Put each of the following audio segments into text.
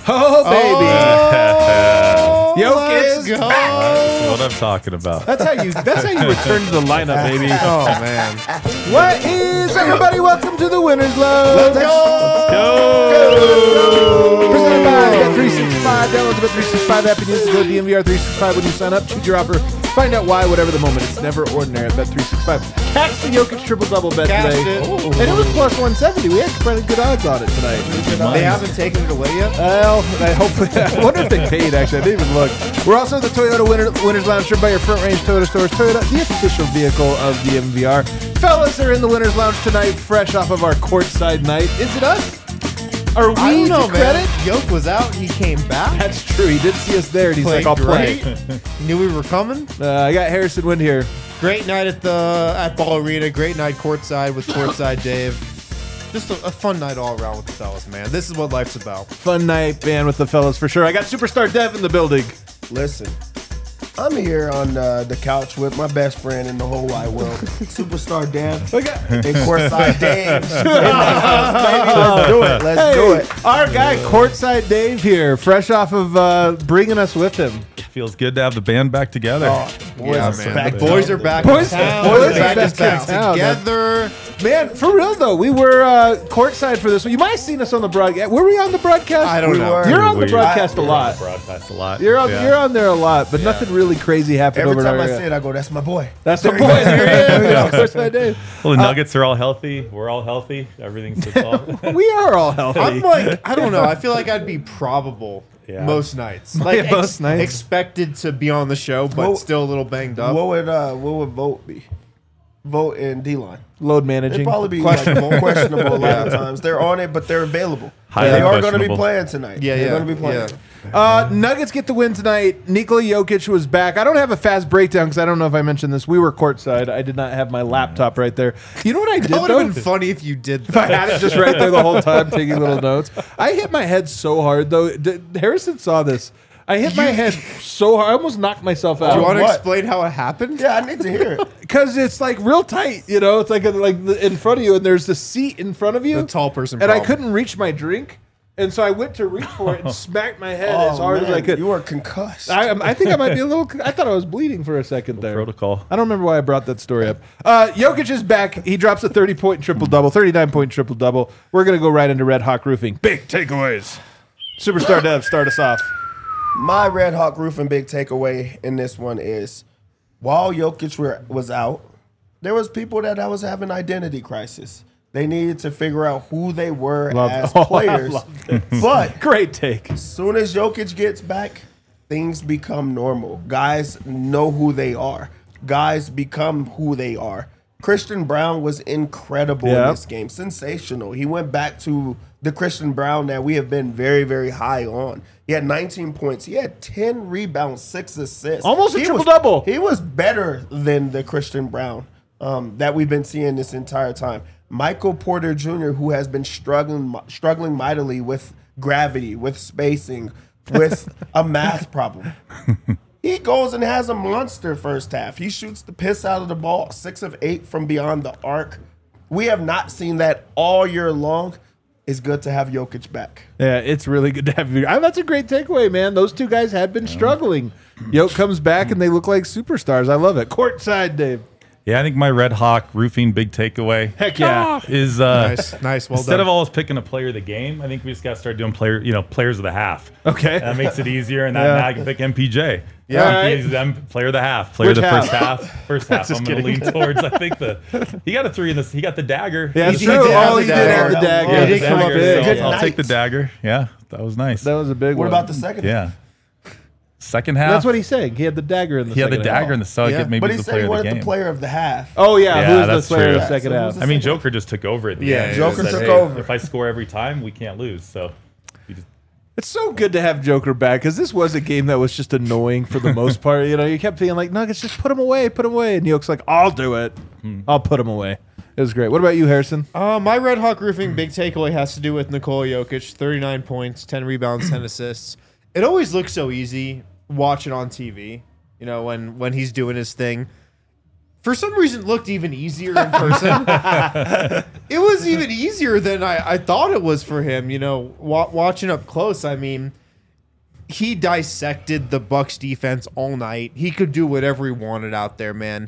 Oh, baby. Jokic is go. back. That's what I'm talking about. That's how you return to the lineup, baby. Oh, man. What is everybody? Welcome to the Winners Lounge. Let's Presented by Bet365. Download the Bet365 app and use the code DMVR365 when you sign up. Choose your offer. Find out why, whatever the moment. It's never ordinary at Bet365. Catch the Jokic triple-double bet Cashed today. it. And it was plus 170. We had pretty good odds on it tonight. They haven't taken it away yet? Well, I wonder if they paid, actually. I didn't even look. We're also the Toyota Winners Lounge, driven by your Front Range Toyota stores. Toyota, the official vehicle of the MVR. Fellas are in the Winners Lounge tonight, fresh off of our courtside night. Is it us? Are we I don't know, to man. credit? Yoke was out. He came back. That's true. He did see us there, and he's Played like, I'll play. great. Knew we were coming. I got Harrison Wind here. Great night at Ball Arena. Great night courtside with Courtside Dave. Just a fun night all around with the fellas, man. This is what life's about. Fun night, man, with the fellas for sure. I got Superstar Dev in the building. Listen, I'm here on the couch with my best friend in the whole wide world, Superstar Dan and Courtside Dave. Let's do it. Let's do it. Our guy, Courtside Dave here, fresh off of bringing us with him. Feels good to have the band back together. Boys Yeah, are man. back. The boys are back Boys- in town. boys They're are back back in in town. together. Man, for real though, we were courtside for this one. You might have seen us on the broadcast. Were we on the broadcast? I don't know. were. You're on the We- broadcast a lot. Broadcast a lot. You're on. Yeah. You're on there a lot, but nothing really crazy happened Every over time there. I say it, I go, "That's my boy." That's the boy. There he is. Courtside Dave. Well, the Nuggets are all healthy. We're all healthy. Everything's good. We are all healthy. I'm like, I don't know. I feel like I'd be probable Yeah. most nights. Like most nights. expected to be on the show, but Well, still a little banged up. What would Vote be? Vote and D-line. Load They'd managing. probably be Questionable. questionable a lot of times. They're on it, but they're available. Highly They are going to be questionable. playing tonight. Yeah, They're yeah, going to be playing. Nuggets get the win tonight. Nikola Jokic was back. I don't have a fast breakdown because I don't know if I mentioned this. We were courtside. I did not have my laptop right there. You know what I did That would though? have been funny if you did If I that. had it just right there the whole time, taking little notes. I hit my head so hard though. Harrison saw this. I hit my head so hard. I almost knocked myself out. Do you want to What? explain how it happened? Yeah, I need to hear it. Because it's like real tight, you know. It's like in front of you, and there's the seat in front of you. The tall person and I problem. couldn't reach my drink, and so I went to reach for it and smacked my head as hard as I could. You were concussed. I think I might be a little. I thought I was bleeding for a second there. Protocol. I don't remember why I brought that story up. Jokic is back. He drops a 30-point triple-double, 39-point triple-double. We're going to go right into Red Hawk Roofing. Big takeaways. Superstar Dev, start us off. My Red Hawk Roofing big takeaway in this one is, while Jokic was out, there was people that was having identity crisis. They needed to figure out who they were as players. But Great take. as soon as Jokic gets back, things become normal. Guys know who they are. Guys become who they are. Christian Brown was incredible in this game. Sensational. He went back to the Christian Brown that we have been very, very high on. He had 19 points. He had 10 rebounds, 6 assists. Almost a He triple-double. He was better than the Christian Brown that we've been seeing this entire time. Michael Porter Jr., who has been struggling mightily with gravity, with spacing, with a math problem. He goes and has a monster first half. He shoots the piss out of the ball, 6 of 8 from beyond the arc. We have not seen that all year long. It's good to have Jokic back. Yeah, it's really good to have you. That's a great takeaway, man. Those two guys had been struggling. Jokic comes back, and they look like superstars. I love it. Courtside, Dave. Yeah, I think my Red Hawk Roofing big takeaway Heck yeah. is Nice. Well instead done. of always picking a player of the game, I think we just got to start doing players of the half. Okay. That makes it easier, and now I can pick MPJ. Yeah. I Right. can use them player of the half, player Which of the half? first half. First half. I'm going to lean towards. I think he got a 3 in this. He got the dagger. Yeah, that's He true. did have Oh, the he did dagger. have the dagger. Yeah, He the did come up dagger, big. so Good I'll night. take the dagger. Yeah, that was nice. That was a big What one. about the second? Yeah. Second half. That's what he's saying. He had the dagger in the he had the second half. dagger in the so I Yeah. get maybe But he the said player he of the wanted game. the player of the half. Oh, yeah. Yeah, Who's the that's player of true. the second So half? who's I mean, Joker just took over at the Yeah, end. Joker He said, took "Hey, over. If I score every time, we can't lose. So he just It's so good to have Joker back because this was a game that was just annoying for the most part. You know, you kept feeling like, Nuggets, just put him away. And Jokic's like, I'll do it. I'll put him away. It was great. What about you, Harrison? My Red Hawk Roofing big takeaway has to do with Nikola Jokic. 39 points, 10 rebounds, 10 assists. It always looks so easy watching on TV, you know, when he's doing his thing. for some reason looked even easier in person. It was even easier than I thought it was for him. You know, watching up close. I mean, he dissected the Bucks defense all night. He could do whatever he wanted out there, man.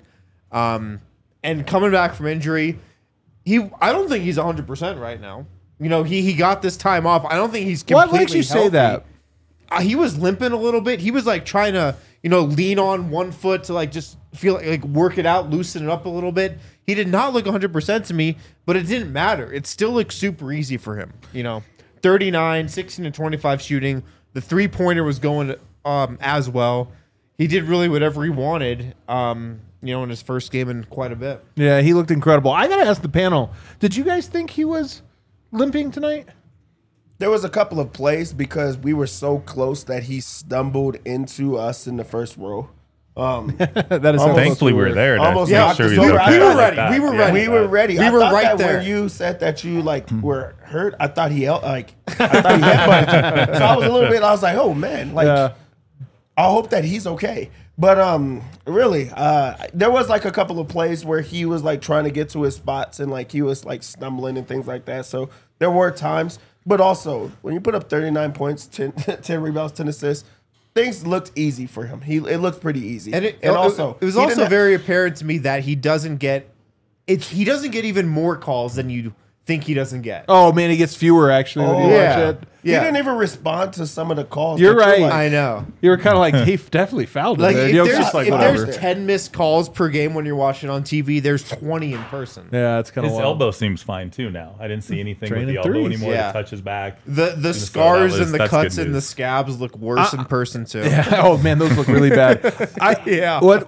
And coming back from injury, I don't think he's 100% right now. You know, he got this time off. I don't think he's completely What makes you say healthy. that? He was limping a little bit. He was like trying to, you know, lean on one foot to like just feel like work it out, loosen it up a little bit. He did not look 100% to me, but it didn't matter. It still looked super easy for him. You know, 39, 16 and 25 shooting. The 3-pointer was going as well. He did really whatever he wanted, you know, in his first game in quite a bit. Yeah, he looked incredible. I got to ask the panel, did you guys think he was limping tonight? There was a couple of plays because we were so close that he stumbled into us in the first row. That is Thankfully, we were there to almost make knocked sure us he over. was I okay. thought ready. Like We were that. ready. We were ready. We I were thought right that there. when you said that you like were hurt, I thought he headbutted you. So I was a little bit. I was like, oh man, like Yeah. I hope that he's okay. But really, there was like a couple of plays where he was like trying to get to his spots and like he was like stumbling and things like that. So there were times, but also when you put up 39 points, 10 rebounds, 10 assists, things looked easy for him. It looked pretty easy. And also, it was he also didn't- very apparent to me that he doesn't get even more calls than you think he doesn't get. Oh, man, he gets fewer, actually, when you yeah. watch it. He Yeah. didn't even respond to some of the calls. You're that right. like- I know. You were kind of like, he definitely fouled him. Like there. if You know, it's there's, just like, if whatever. there's 10 missed calls per game when you're watching on TV, there's 20 in person. Yeah, it's kind of His wild. elbow seems fine too now. I didn't see anything with Training the elbow threes. anymore. Yeah. To touch his back. The So scars that was- and the that's cuts good and the news. scabs look worse in person too. Yeah. Oh, man, those look really bad. Yeah. What?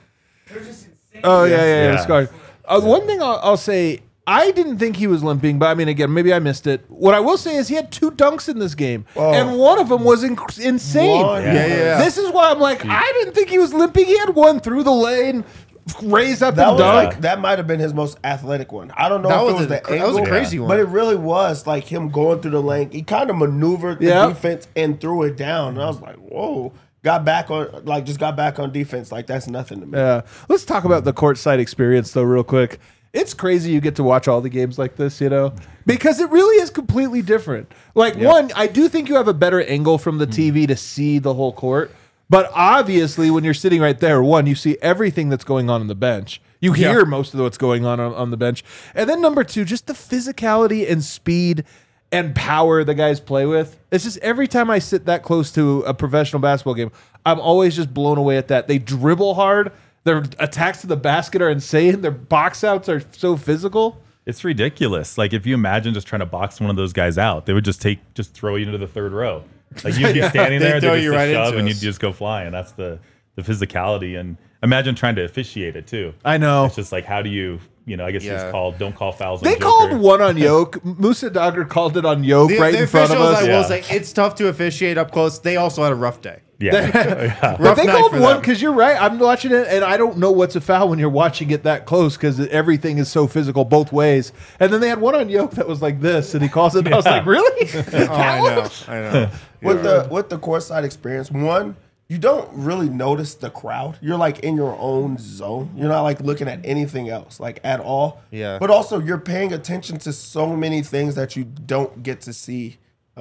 Oh, yeah, Yeah. the scars. One thing I'll say, I didn't think he was limping, but I mean, again, maybe I missed it. What I will say is he had 2 dunks in this game, and one of them was insane. One. Yeah. This is why I'm like, I didn't think he was limping. He had one through the lane, raised up That and was dunk. like that might have been his most athletic one. I don't know That if was it was a- the that was angle, a crazy one. but it really was like him going through the lane. He kind of maneuvered the Yeah. defense and threw it down. And I was like, whoa! Got back on defense. Like that's nothing to me. Yeah. Let's talk about the courtside experience, though, real quick. It's crazy you get to watch all the games like this, you know, because it really is completely different. Like, one, I do think you have a better angle from the TV to see the whole court. But obviously, when you're sitting right there, one, you see everything that's going on the bench. You hear most of what's going on the bench. And then number 2, just the physicality and speed and power the guys play with. It's just every time I sit that close to a professional basketball game, I'm always just blown away at that. They dribble hard. Their attacks to the basket are insane. Their box outs are so physical. It's ridiculous. Like if you imagine just trying to box one of those guys out, they would just throw you into the third row. Like you'd be standing They there, throw they you just right shove, into and us. you'd just go flying. That's the physicality, and imagine trying to officiate it too. I know. It's just like how do you, I guess Yeah. it's don't call fouls. They on called Joker. one on Yoke. Musa Dagger called it on Yoke right the in front of officials, us. I will Yeah. say, it's tough to officiate up close. They also had a rough day. Yeah. But Rough they night called for one them. because you're right. I'm watching it and I don't know what's a foul when you're watching it that close because everything is so physical both ways. And then they had one on Yoke that was like this, and he calls it. And I was like, really? Oh, I know. With the courtside experience, one, you don't really notice the crowd. You're like in your own zone. You're not like looking at anything else, like at all. Yeah. But also, you're paying attention to so many things that you don't get to see.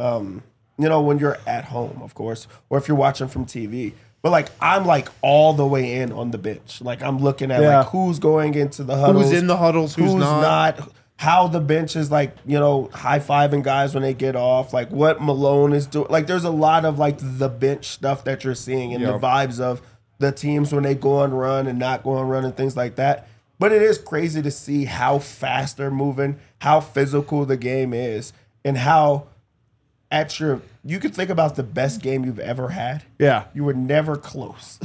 When you're at home, of course, or if you're watching from TV. But like I'm like all the way in on the bench. Like I'm looking at Yeah. like who's going into the huddles, Who's in the huddles, who's not. how the bench is like, high-fiving guys when they get off, like what Malone is doing. Like there's a lot of like the bench stuff that you're seeing and the vibes of the teams when they go on run and not go on run and things like that. But it is crazy to see how fast they're moving, how physical the game is, and how you could think about the best game you've ever had. Yeah. You were never close.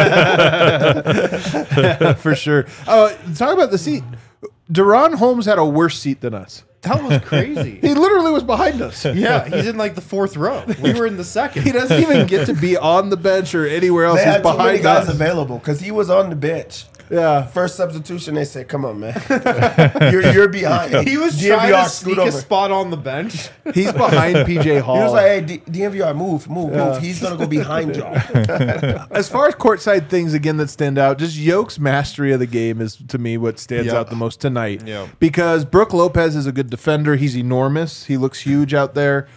For sure. Talk about the seat. Deron Holmes had a worse seat than us. That was crazy. He literally was behind us. Yeah, he's in like the 4th row. We were in the 2nd. He doesn't even get to be on the bench or anywhere else. They He's had too many behind guys us. available because he was on the bench. Yeah. First substitution, they said, "Come on, man, you're behind." He was DNVR trying to scoot sneak a over. spot on the bench. He's behind PJ Hall. He was like, "Hey, DNVR, move. He's gonna go behind y'all." As far as courtside things again that stand out, just Yoke's mastery of the game is to me what stands Yeah. out the most tonight. Yeah. Because Brook Lopez is a good defender. He's enormous. He looks huge out there.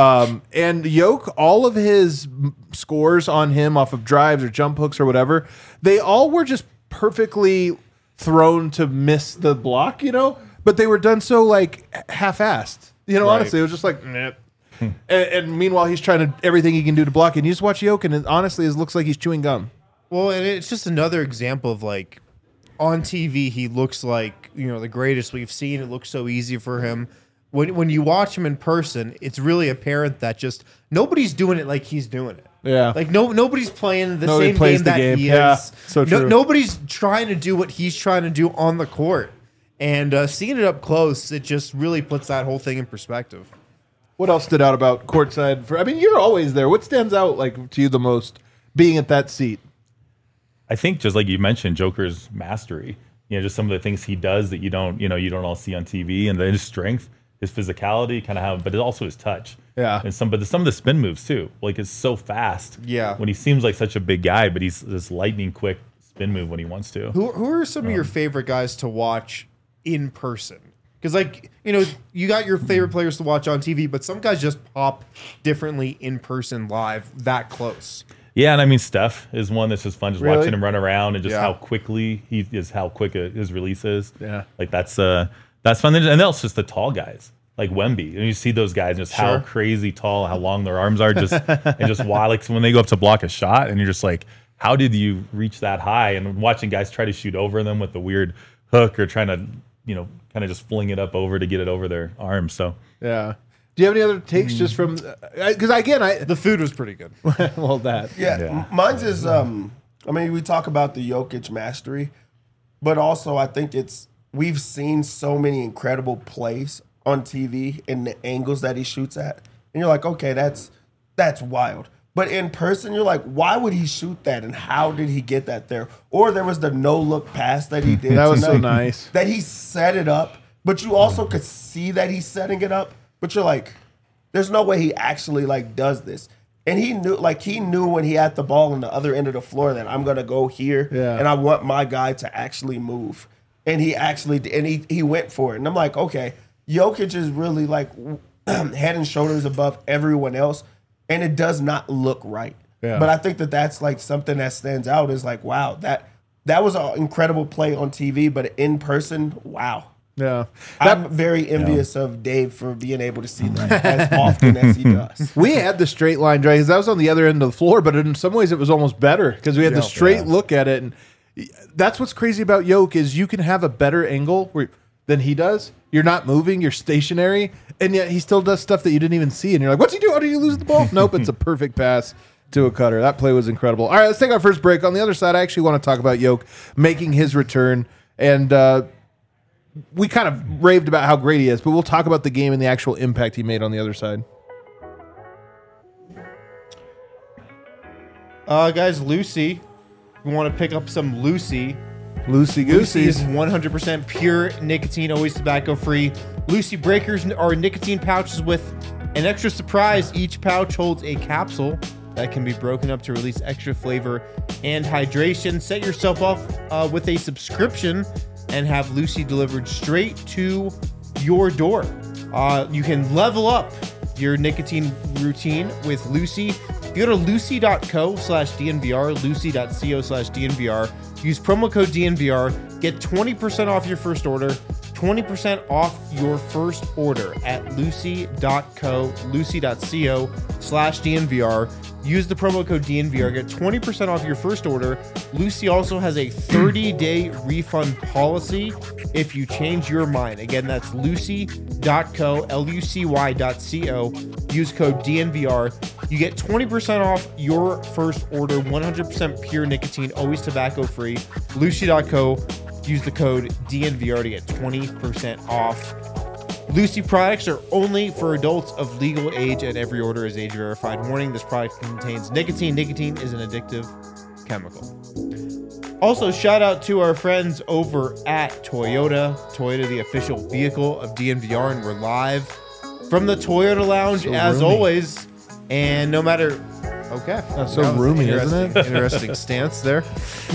And Yoke, all of his scores on him off of drives or jump hooks or whatever, they all were just perfectly thrown to miss the block, but they were done so like half-assed. Honestly, it was just like, nah. And meanwhile, he's trying to everything he can do to block it. And you just watch Yoke, and honestly, it looks like he's chewing gum. Well, and it's just another example of like on TV, he looks like the greatest we've seen. It looks so easy for him. When you watch him in person, it's really apparent that just nobody's doing it like he's doing it. Yeah. Like nobody's playing the Nobody same plays game the that game. he Yeah, is. so true. Nobody's trying to do what he's trying to do on the court. And seeing it up close, it just really puts that whole thing in perspective. What else stood out about courtside? You're always there. What stands out like to you the most being at that seat? I think just like you mentioned, Joker's mastery. Just some of the things he does that you don't all see on TV, and then his strength, his physicality, but also his touch. Yeah. And some of the spin moves too. Like it's so fast. Yeah. When he seems like such a big guy, but he's this lightning quick spin move when he wants to. Who are some of your favorite guys to watch in person? Because you got your favorite players to watch on TV, but some guys just pop differently in person live that close. Yeah, and I mean Steph is one that's just fun, just Really? watching him run around and just Yeah. how quickly how quick his release is. Yeah. Like that's fun. And then also just the tall guys like Wemby, and you see those guys just how Sure. crazy tall, how long their arms are, and just why like when they go up to block a shot, and you're just like, how did you reach that high? And watching guys try to shoot over them with the weird hook or trying to kind of just fling it up over to get it over their arms. So Yeah. Do you have any other takes just from? Because again, The food was pretty good. well that. Yeah. Mine's is we talk about the Jokic mastery, but also I think we've seen so many incredible plays on TV and the angles that he shoots at, and you're like, okay, that's wild. But in person, you're like, why would he shoot that, and how did he get that there? Or there was the no look pass that he did. That was so tonight, nice. that he set it up, but you also could see that he's setting it up. But you're like, there's no way he actually does this. And he knew when he had the ball on the other end of the floor that I'm gonna go here, Yeah. and I want my guy to actually move. And he actually he went for it. And I'm like, okay, Jokic is really head and shoulders above everyone else, and it does not look right. Yeah. But I think that's something that stands out is wow, that was an incredible play on TV, but in person, wow. Yeah. I'm very envious of Dave for being able to see that as often as he does. We had the straight line drive because that was on the other end of the floor, but in some ways it was almost better because we had the straight look at it. And that's what's crazy about Yoke is you can have a better angle than he does. You're not moving, you're stationary, and yet he still does stuff that you didn't even see. And you're like, what's he doing? Did he lose the ball? Nope, it's a perfect pass to a cutter. That play was incredible. All right, let's take our first break. On the other side, I actually want to talk about Yoke making his return. And we kind of raved about how great he is, but we'll talk about the game and the actual impact he made on the other side. Guys, Lucy. We want to pick up some Lucy. Lucy Lucy is Goosey. 100% pure nicotine, always tobacco free. Lucy Breakers are nicotine pouches with an extra surprise. Each pouch holds a capsule that can be broken up to release extra flavor and hydration. Set yourself off with a subscription and have Lucy delivered straight to your door. You can level up your nicotine routine with Lucy. Go to lucy.co/DNVR, lucy.co/DNVR. Use promo code DNVR. Get 20% off your first order. 20% off your first order at lucy.co/DNVR. Use the promo code DNVR. Get 20% off your first order. Lucy also has a 30-day refund policy if you change your mind. Again, that's lucy.co, lucy.co. Use code DNVR. You get 20% off your first order. 100% pure nicotine, always tobacco free. Lucy.co. Use the code DNVR to get 20% off. Lucy products are only for adults of legal age, and every order is age verified. Warning: this product contains nicotine. Nicotine is an addictive chemical. Also, shout out to our friends over at Toyota. Toyota, the official vehicle of DNVR, and we're live from the Toyota Lounge as roomy. always. And no matter, okay, That's so that was roomy, isn't it? Interesting stance there.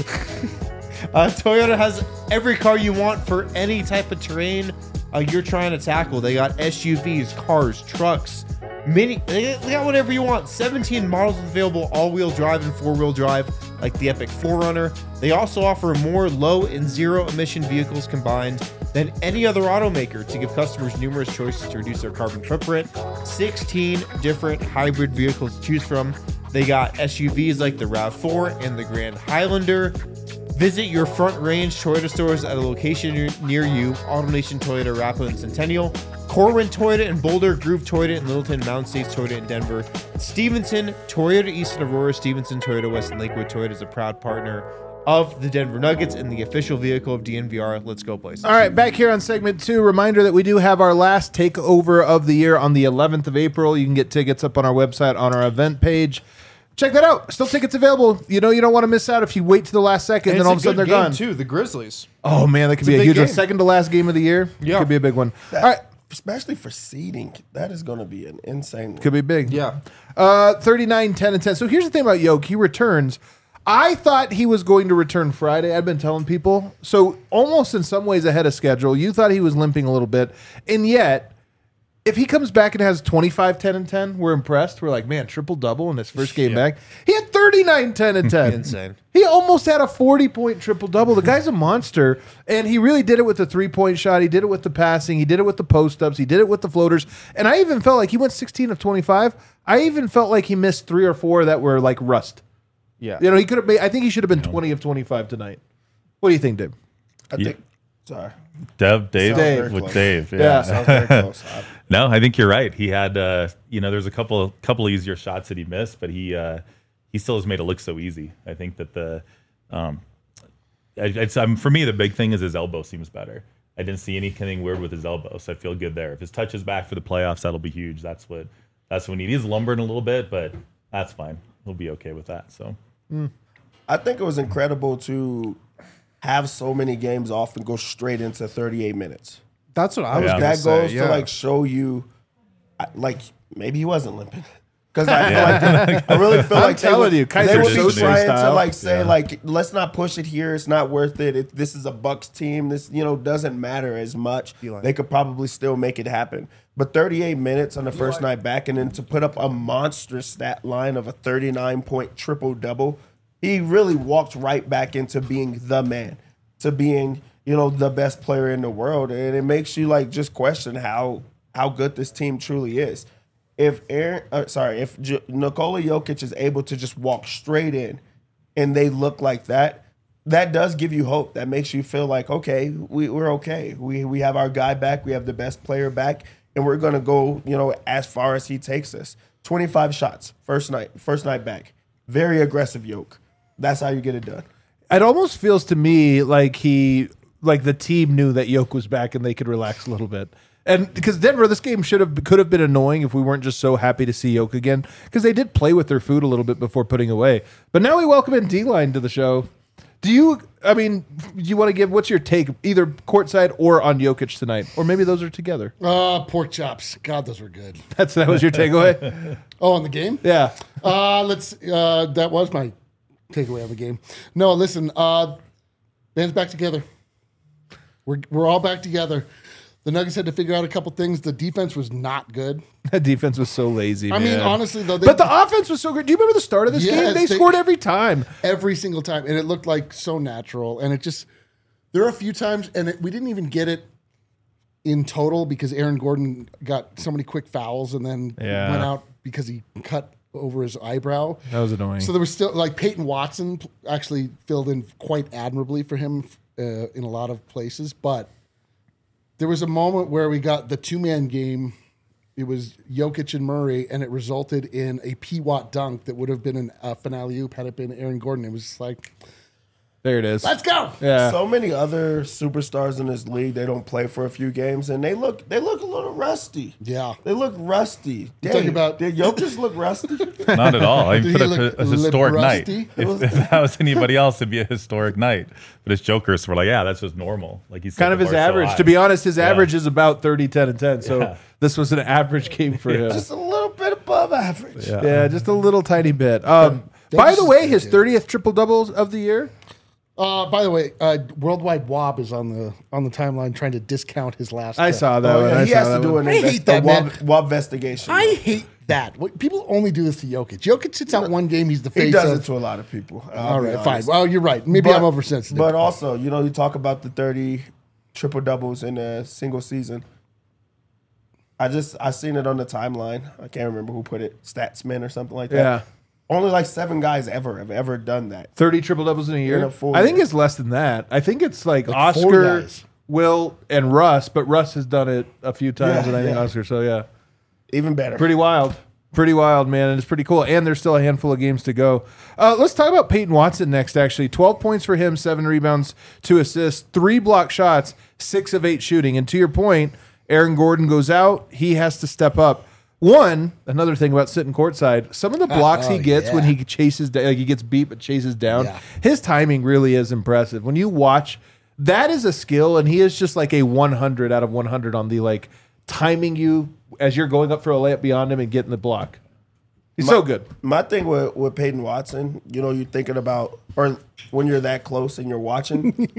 Toyota has every car you want for any type of terrain you're trying to tackle. They got SUVs, cars, trucks, mini. They got whatever you want. 17 models available, all-wheel drive and four-wheel drive, like the Epic 4Runner. They also offer more low and zero-emission vehicles combined than any other automaker to give customers numerous choices to reduce their carbon footprint. 16 different hybrid vehicles to choose from. They got SUVs like the RAV4 and the Grand Highlander. Visit your Front Range Toyota stores at a location near you. AutoNation Toyota, Arapahoe and Centennial. Corwin Toyota in Boulder. Groove Toyota in Littleton. Mountain States Toyota in Denver. Stevenson Toyota East and Aurora. Stevenson Toyota West and Lakewood. Toyota is a proud partner of the Denver Nuggets and the official vehicle of DNVR. Let's go, places. All right, back here on segment 2. Reminder that we do have our last takeover of the year on the 11th of April. You can get tickets up on our website on our event page. Check that out. Still tickets available. You know you don't want to miss out if you wait to the last second and then all of a sudden they're gone. too. The Grizzlies. Oh, man, that could be a big huge one. game. Second to last game of the year. Yeah. Could be a big one. All right. Especially for seeding, that is going to be an insane one. Could be big. Yeah. 39, 10, and 10. So here's the thing about Yoke. He returns. I thought he was going to return Friday. I've been telling people. So almost in some ways ahead of schedule. You thought he was limping a little bit. And yet, if he comes back and has 25, 10, and 10, we're impressed. We're like, man, triple-double in his first game back. He had 39, 10, and 10. Insane. He almost had a 40-point triple-double. The guy's a monster, and he really did it with the three-point shot. He did it with the passing. He did it with the post-ups. He did it with the floaters. And I even felt like he went 16 of 25. I even felt like he missed 3 or 4 that were like rust. Yeah. You know, he could have made, I think he should have been 20 of 25 tonight. What do you think, Dave? I think. Sorry. Dave Dave. with Close. Dave. Yeah. Sounds very close. No, I think you're right. He had, there's a couple easier shots that he missed, but he still has made it look so easy. I think that for me, the big thing is his elbow seems better. I didn't see anything weird with his elbow, so I feel good there. If his touch is back for the playoffs, that'll be huge. That's what we need. He's lumbering a little bit, but that's fine. He'll be okay with that. So I think it was incredible to have so many games off and go straight into 38 minutes. That's what I was Yeah. going to That say. goes to like show you, like maybe he wasn't limping. Because I feel like I really feel like telling you, they Kaiser would be Soze trying to style. like say like let's not push it here. It's not worth it. This is a Bucks team. This doesn't matter as much. They could probably still make it happen. But 38 minutes on the first night back, and then to put up a monster stat line of a 39-point triple double, he really walked right back into being the man, to being the best player in the world, and it makes you like just question how good this team truly is. If Nikola Jokic is able to just walk straight in and they look like that, that does give you hope. That makes you feel like, okay, we're okay. We have our guy back. We have the best player back, and we're going to go, as far as he takes us. 25 shots, first night back. Very aggressive Yoke. That's how you get it done. It almost feels to me like the team knew that Yoke was back and they could relax a little bit. And because Denver, this game could have been annoying if we weren't just so happy to see Yoke again, because they did play with their food a little bit before putting away. But now we welcome in D-Line to the show. Do you want to give, what's your take, either courtside or on Jokic tonight? Or maybe those are together. Pork chops. God, those were good. That was your takeaway? Oh, on the game? Yeah. That was my takeaway on the game. No, listen, band's back together. We're all back together. The Nuggets had to figure out a couple things. The defense was not good. That defense was so lazy, I mean, honestly, though. But the offense was so good. Do you remember the start of this game? They scored every time. Every single time. And it looked like so natural. And it just, there are a few times, and we didn't even get it in total because Aaron Gordon got so many quick fouls and then went out because he cut over his eyebrow. That was annoying. So there was still, like, Peyton Watson actually filled in quite admirably for him in a lot of places. But there was a moment where we got the two-man game. It was Jokic and Murray, and it resulted in a P. Watt dunk that would have been a finale oop had it been Aaron Gordon. It was just like, There it is. Let's go. Yeah. So many other superstars in this league, they don't play for a few games, and they look a little rusty. Yeah. They look rusty. talking about- did Jokic look rusty? Not at all. I Did put he a look historic night. rusty? If that was anybody else, it'd be a historic night. But it's Jokers. We're like, yeah, that's just normal. Like he's Kind of his average. To be honest, his average is about 30, 10, and 10. So Yeah. this was an average game for him. Just a little bit above average. Yeah, just a little tiny bit. By the way, his 30th triple doubles of the year. By the way, Worldwide Wob is on the timeline trying to discount his last. I saw that Oh, one. yeah, I he saw has that to do one. an I hate that, man. WOB investigation. I hate that. People only do this to Jokic. Jokic sits out one game. He's the face He does of. it to a lot of people. All right, fine. Well, you're right. Maybe I'm oversensitive. But also, you talk about the 30 triple doubles in a single season. I seen it on the timeline. I can't remember who put it. Statsman or something like that. Yeah. Only like 7 guys have ever done that. 30 triple doubles in a year. In a full I think year. it's less than that. I think it's like 4 Oscar, guys. Will, and Russ, but Russ has done it a few times Yeah, than I think yeah. Oscar. So yeah, Even better. pretty wild. Pretty wild, man. And it's pretty cool. And there's still a handful of games to go. Let's talk about Peyton Watson next, actually. 12 points for him, 7 rebounds, 2 assists, 3 block shots, 6 of 8 shooting. And to your point, Aaron Gordon goes out. He has to step up. Another thing about sitting courtside, some of the blocks he gets when he chases down, like he gets beat but chases down, his timing really is impressive. When you watch, that is a skill, and he is just like a 100 out of 100 on the like timing you as you're going up for a layup beyond him and getting the block. He's so good. My thing with Peyton Watson, you're thinking about, or when you're that close and you're watching,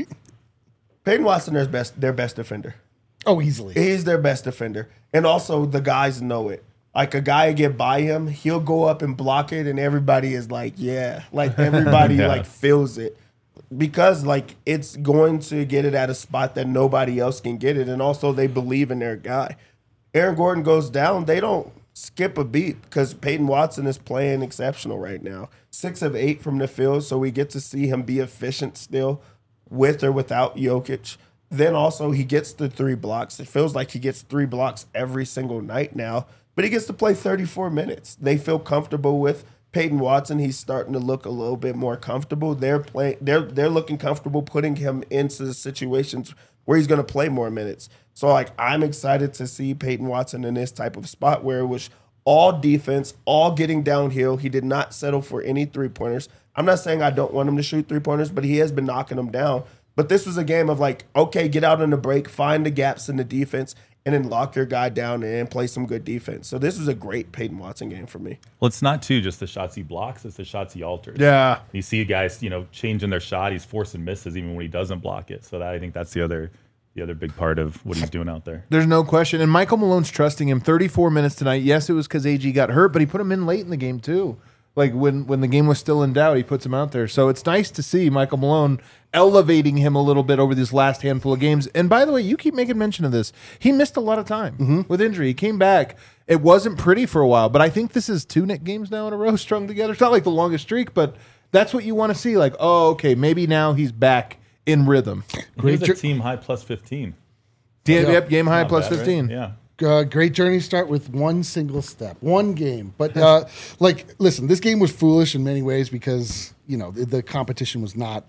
Peyton Watson is their best defender. Oh, easily. He's their best defender. And also, the guys know it. Like, a guy get by him, he'll go up and block it, and everybody is like, yeah. Like, everybody, like, feels it. Because, like, it's going to get it at a spot that nobody else can get it. And also, they believe in their guy. Aaron Gordon goes down, they don't skip a beat because Peyton Watson is playing exceptional right now. 6 of 8 from the field, so we get to see him be efficient still with or without Jokic. Then also he gets the 3 blocks. It feels like he gets 3 blocks every single night now, but he gets to play 34 minutes. They feel comfortable with Peyton Watson. He's starting to look a little bit more comfortable. They're looking comfortable putting him into the situations where he's going to play more minutes. So like I'm excited to see Peyton Watson in this type of spot where it was all defense, all getting downhill. He did not settle for any 3-pointers. I'm not saying I don't want him to shoot 3-pointers, but he has been knocking them down. But this was a game of like, okay, get out in the break, find the gaps in the defense, and then lock your guy down and play some good defense. So this was a great Peyton Watson game for me. Well, it's not just the shots he blocks; it's the shots he alters. Yeah. You see guys, changing their shot. He's forcing misses even when he doesn't block it. So I think that's the other big part of what he's doing out there. There's no question. And Michael Malone's trusting him. 34 minutes tonight. Yes, it was because AG got hurt, but he put him in late in the game too. Like when the game was still in doubt, he puts him out there. So it's nice to see Michael Malone elevating him a little bit over this last handful of games. And by the way, you keep making mention of this. He missed a lot of time with injury. He came back. It wasn't pretty for a while, but I think this is 2 Knick games now in a row strung together. It's not like the longest streak, but that's what you want to see. Like, oh, okay, maybe now he's back in rhythm. He's a team high plus 15. Yep, game high Not plus bad, right? 15. Yeah. Great journey start with one single step, one game. But listen, this game was foolish in many ways because the competition was not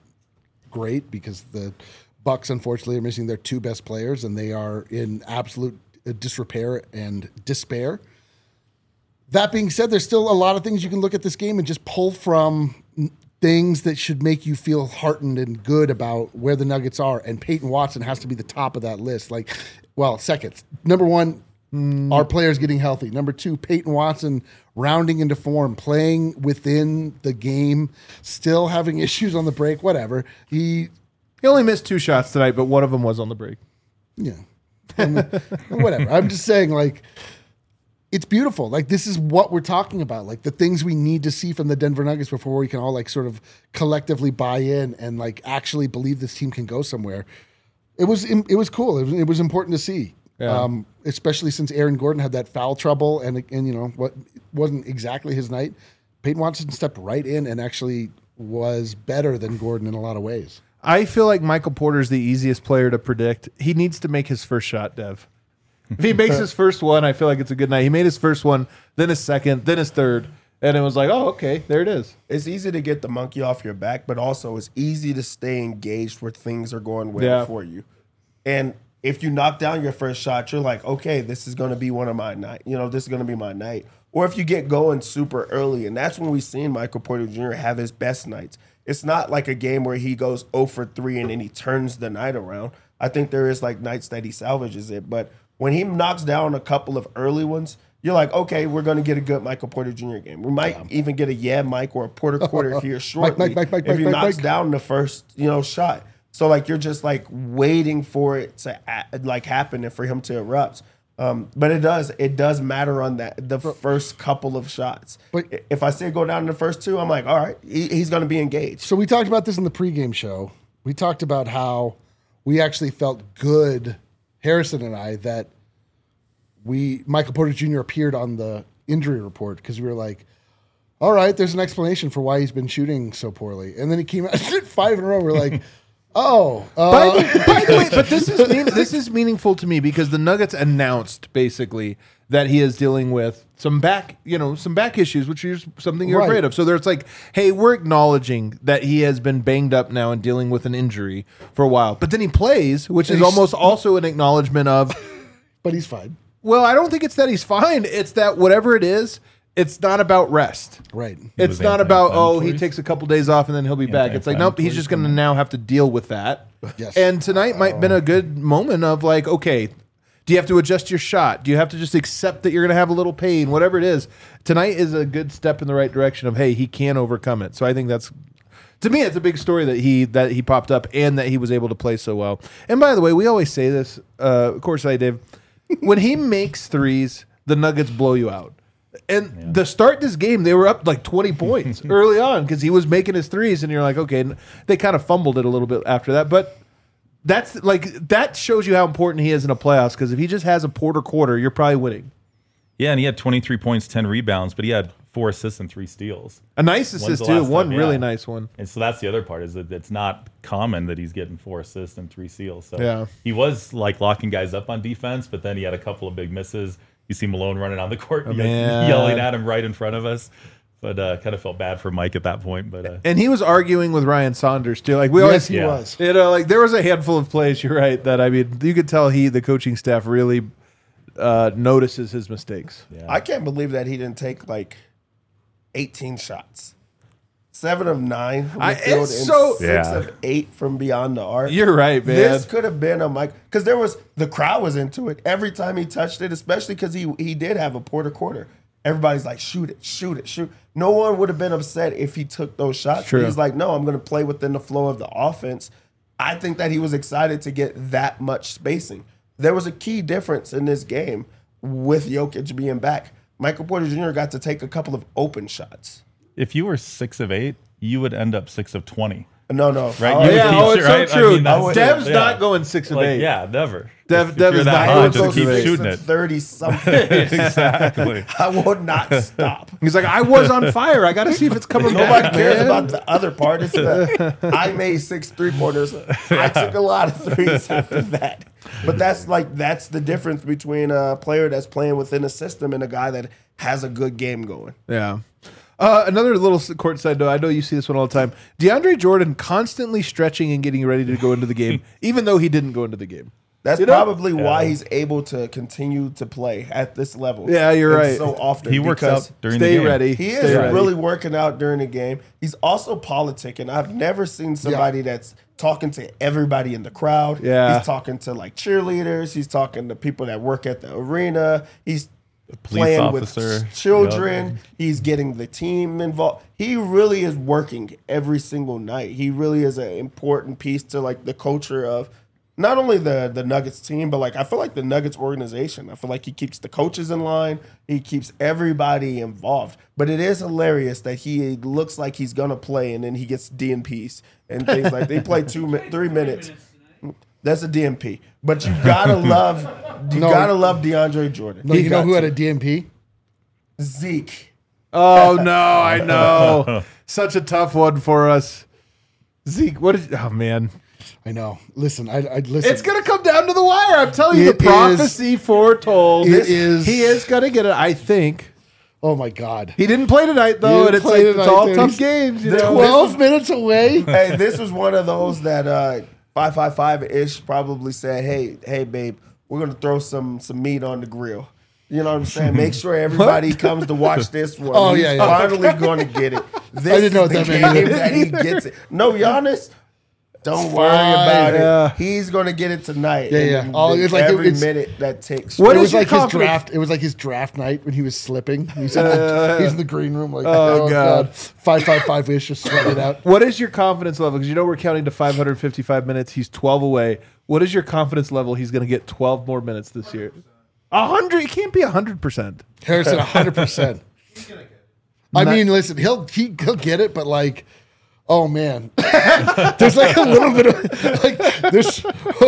great because the Bucks unfortunately are missing their 2 best players and they are in absolute disrepair and despair. That being said, there's still a lot of things you can look at this game and just pull from things that should make you feel heartened and good about where the Nuggets are. And Peyton Watson has to be the top of that list. Second. Number 1, our players getting healthy. Number 2, Peyton Watson rounding into form, playing within the game, still having issues on the break, whatever. He only missed 2 shots tonight, but one of them was on the break. Yeah. Whatever. I'm just saying, it's beautiful. This is what we're talking about. The things we need to see from the Denver Nuggets before we can all sort of collectively buy in and actually believe this team can go somewhere. It was cool. It was important to see, especially since Aaron Gordon had that foul trouble and what wasn't exactly his night. Peyton Watson stepped right in and actually was better than Gordon in a lot of ways. I feel like Michael Porter's the easiest player to predict. He needs to make his first shot, Dev. If he makes his first one, I feel like it's a good night. He made his first one, then his second, then his third. And it was like, oh, okay, there it is. It's easy to get the monkey off your back, but also it's easy to stay engaged where things are going well for you. And if you knock down your first shot, you're like, okay, this is going to be one of my night. This is going to be my night. Or if you get going super early, and that's when we've seen Michael Porter Jr. have his best nights. It's not like a game where he goes 0 for 3 and then he turns the night around. I think there is like nights that he salvages it. But when he knocks down a couple of early ones, you're like, okay, we're going to get a good Michael Porter Jr. game. We might even get a Mike or a Porter quarter here shortly if he knocks down the first shot. So like you're just like waiting for it to like happen and for him to erupt. But it does matter on the first couple of shots. But if I see it go down in the first two, I'm like, all right, he's going to be engaged. So we talked about this in the pregame show. We talked about how we actually felt good, Harrison and I, that Michael Porter Jr. appeared on the injury report because we were like, all right, there's an explanation for why he's been shooting so poorly. And then he came out 5 in a row. We're like, oh. By the way, but this is meaningful to me because the Nuggets announced basically that he is dealing with some back issues, which is something you're afraid of. So there's like, hey, we're acknowledging that he has been banged up now and dealing with an injury for a while. But then he plays, which is almost also an acknowledgement of. But he's fine. Well, I don't think it's that he's fine. It's that whatever it is, it's not about rest. Right. It's not about, he takes a couple days off and then he'll be back. It's like, nope, he's just going to now have to deal with that. Yes. And tonight might have been a good moment of like, okay, do you have to adjust your shot? Do you have to just accept that you're going to have a little pain? Whatever it is, tonight is a good step in the right direction of, hey, he can overcome it. So I think that's, to me, it's a big story that he popped up and that he was able to play so well. And by the way, we always say this, of course I did. When he makes threes, the Nuggets blow you out. And to start this game, they were up like 20 points early on because he was making his threes, and you're like, okay, they kind of fumbled it a little bit after that. But that shows you how important he is in a playoffs because if he just has a Porter quarter, you're probably winning. Yeah, and he had 23 points, 10 rebounds, but he had 4 assists and 3 steals. A nice assist too, one really nice one. And so that's the other part is that it's not common that he's getting 4 assists and 3 steals. So he was like locking guys up on defense, but then he had a couple of big misses. You see Malone running on the court, yelling at him right in front of us. But kind of felt bad for Mike at that point. But and he was arguing with Ryan Saunders too. Like he was. Like there was a handful of plays. You're right that you could tell the coaching staff really notices his mistakes. Yeah. I can't believe that he didn't take like 18 shots. 7 of 9 from the field and 6 of 8 from beyond the arc. You're right, man. This could have been a Mike because the crowd was into it every time he touched it, especially because he did have a Porter quarter. Everybody's like, shoot it, shoot it, shoot. No one would have been upset if he took those shots. True. He's like, no, I'm going to play within the flow of the offense. I think that he was excited to get that much spacing. There was a key difference in this game with Jokic being back. Michael Porter Jr. got to take a couple of open shots. If you were 6 of 8, you would end up 6 of 20. No. Right? It's so true. I mean, Dev's not going 6 of 8. Yeah, never. Dev if is that not hot, going just keep 6 of 8. shooting it. 30 something. Exactly. I will not stop. He's like, I was on fire. I got to see if it's coming Nobody back, cares man. about the other part. It's I made 6 3-pointers. I took a lot of threes after that. But that's the difference between a player that's playing within a system and a guy that has a good game going. Yeah. Another little courtside note. I know you see this one all the time. DeAndre Jordan constantly stretching and getting ready to go into the game, even though he didn't go into the game. That's probably why he's able to continue to play at this level. Yeah, you're right. So often He works out during the Stay game. ready. He Stay is ready. really working out during the game. He's also politicking. I've never seen somebody that's talking to everybody in the crowd. Yeah. He's talking to like cheerleaders. He's talking to people that work at the arena. He's police playing officer. with children. He's getting the team involved. He really is working every single night. He really is an important piece to like the culture of not only the Nuggets team, but like I feel like the Nuggets organization. I feel like he keeps the coaches in line. He keeps everybody involved. But it is hilarious that he looks like he's gonna play and then he gets DNPs and things like they play 3 minutes. That's a DNP. But you gotta love DeAndre Jordan. No, you know who had a DMP? Zeke. Oh, no, I know. Such a tough one for us. Zeke, oh, man. I know. Listen, I listen. It's going to come down to the wire. I'm telling you, the It prophecy foretold. It is. He is going to get it, I think. Oh my God. He didn't play tonight though, and it's like it's all tough games. You know? 12 minutes away. Hey, this was one of those that 555-ish probably said, hey, babe, we're gonna throw some meat on the grill. You know what I'm saying? Make sure everybody comes to watch this one. Oh, He's yeah. finally going to get it. This didn't know is what the that meant. game that he gets it. No, Giannis, don't worry fine. about it. He's going to get it tonight. Yeah. And It's like every it's- minute that takes. What It is was your like his confidence? draft. It was like his draft night when he was slipping. He's in the green room like, Oh, oh God. God, 555-ish, just sweating it out. What is your confidence level? Because you know we're counting to 555 minutes. He's 12 away. What is your confidence level? He's going to get 12 more minutes this year. 100. It can't be 100%. Harrison, 100%. I mean, listen, he'll get it, but like, oh man, there's like a little bit of like this.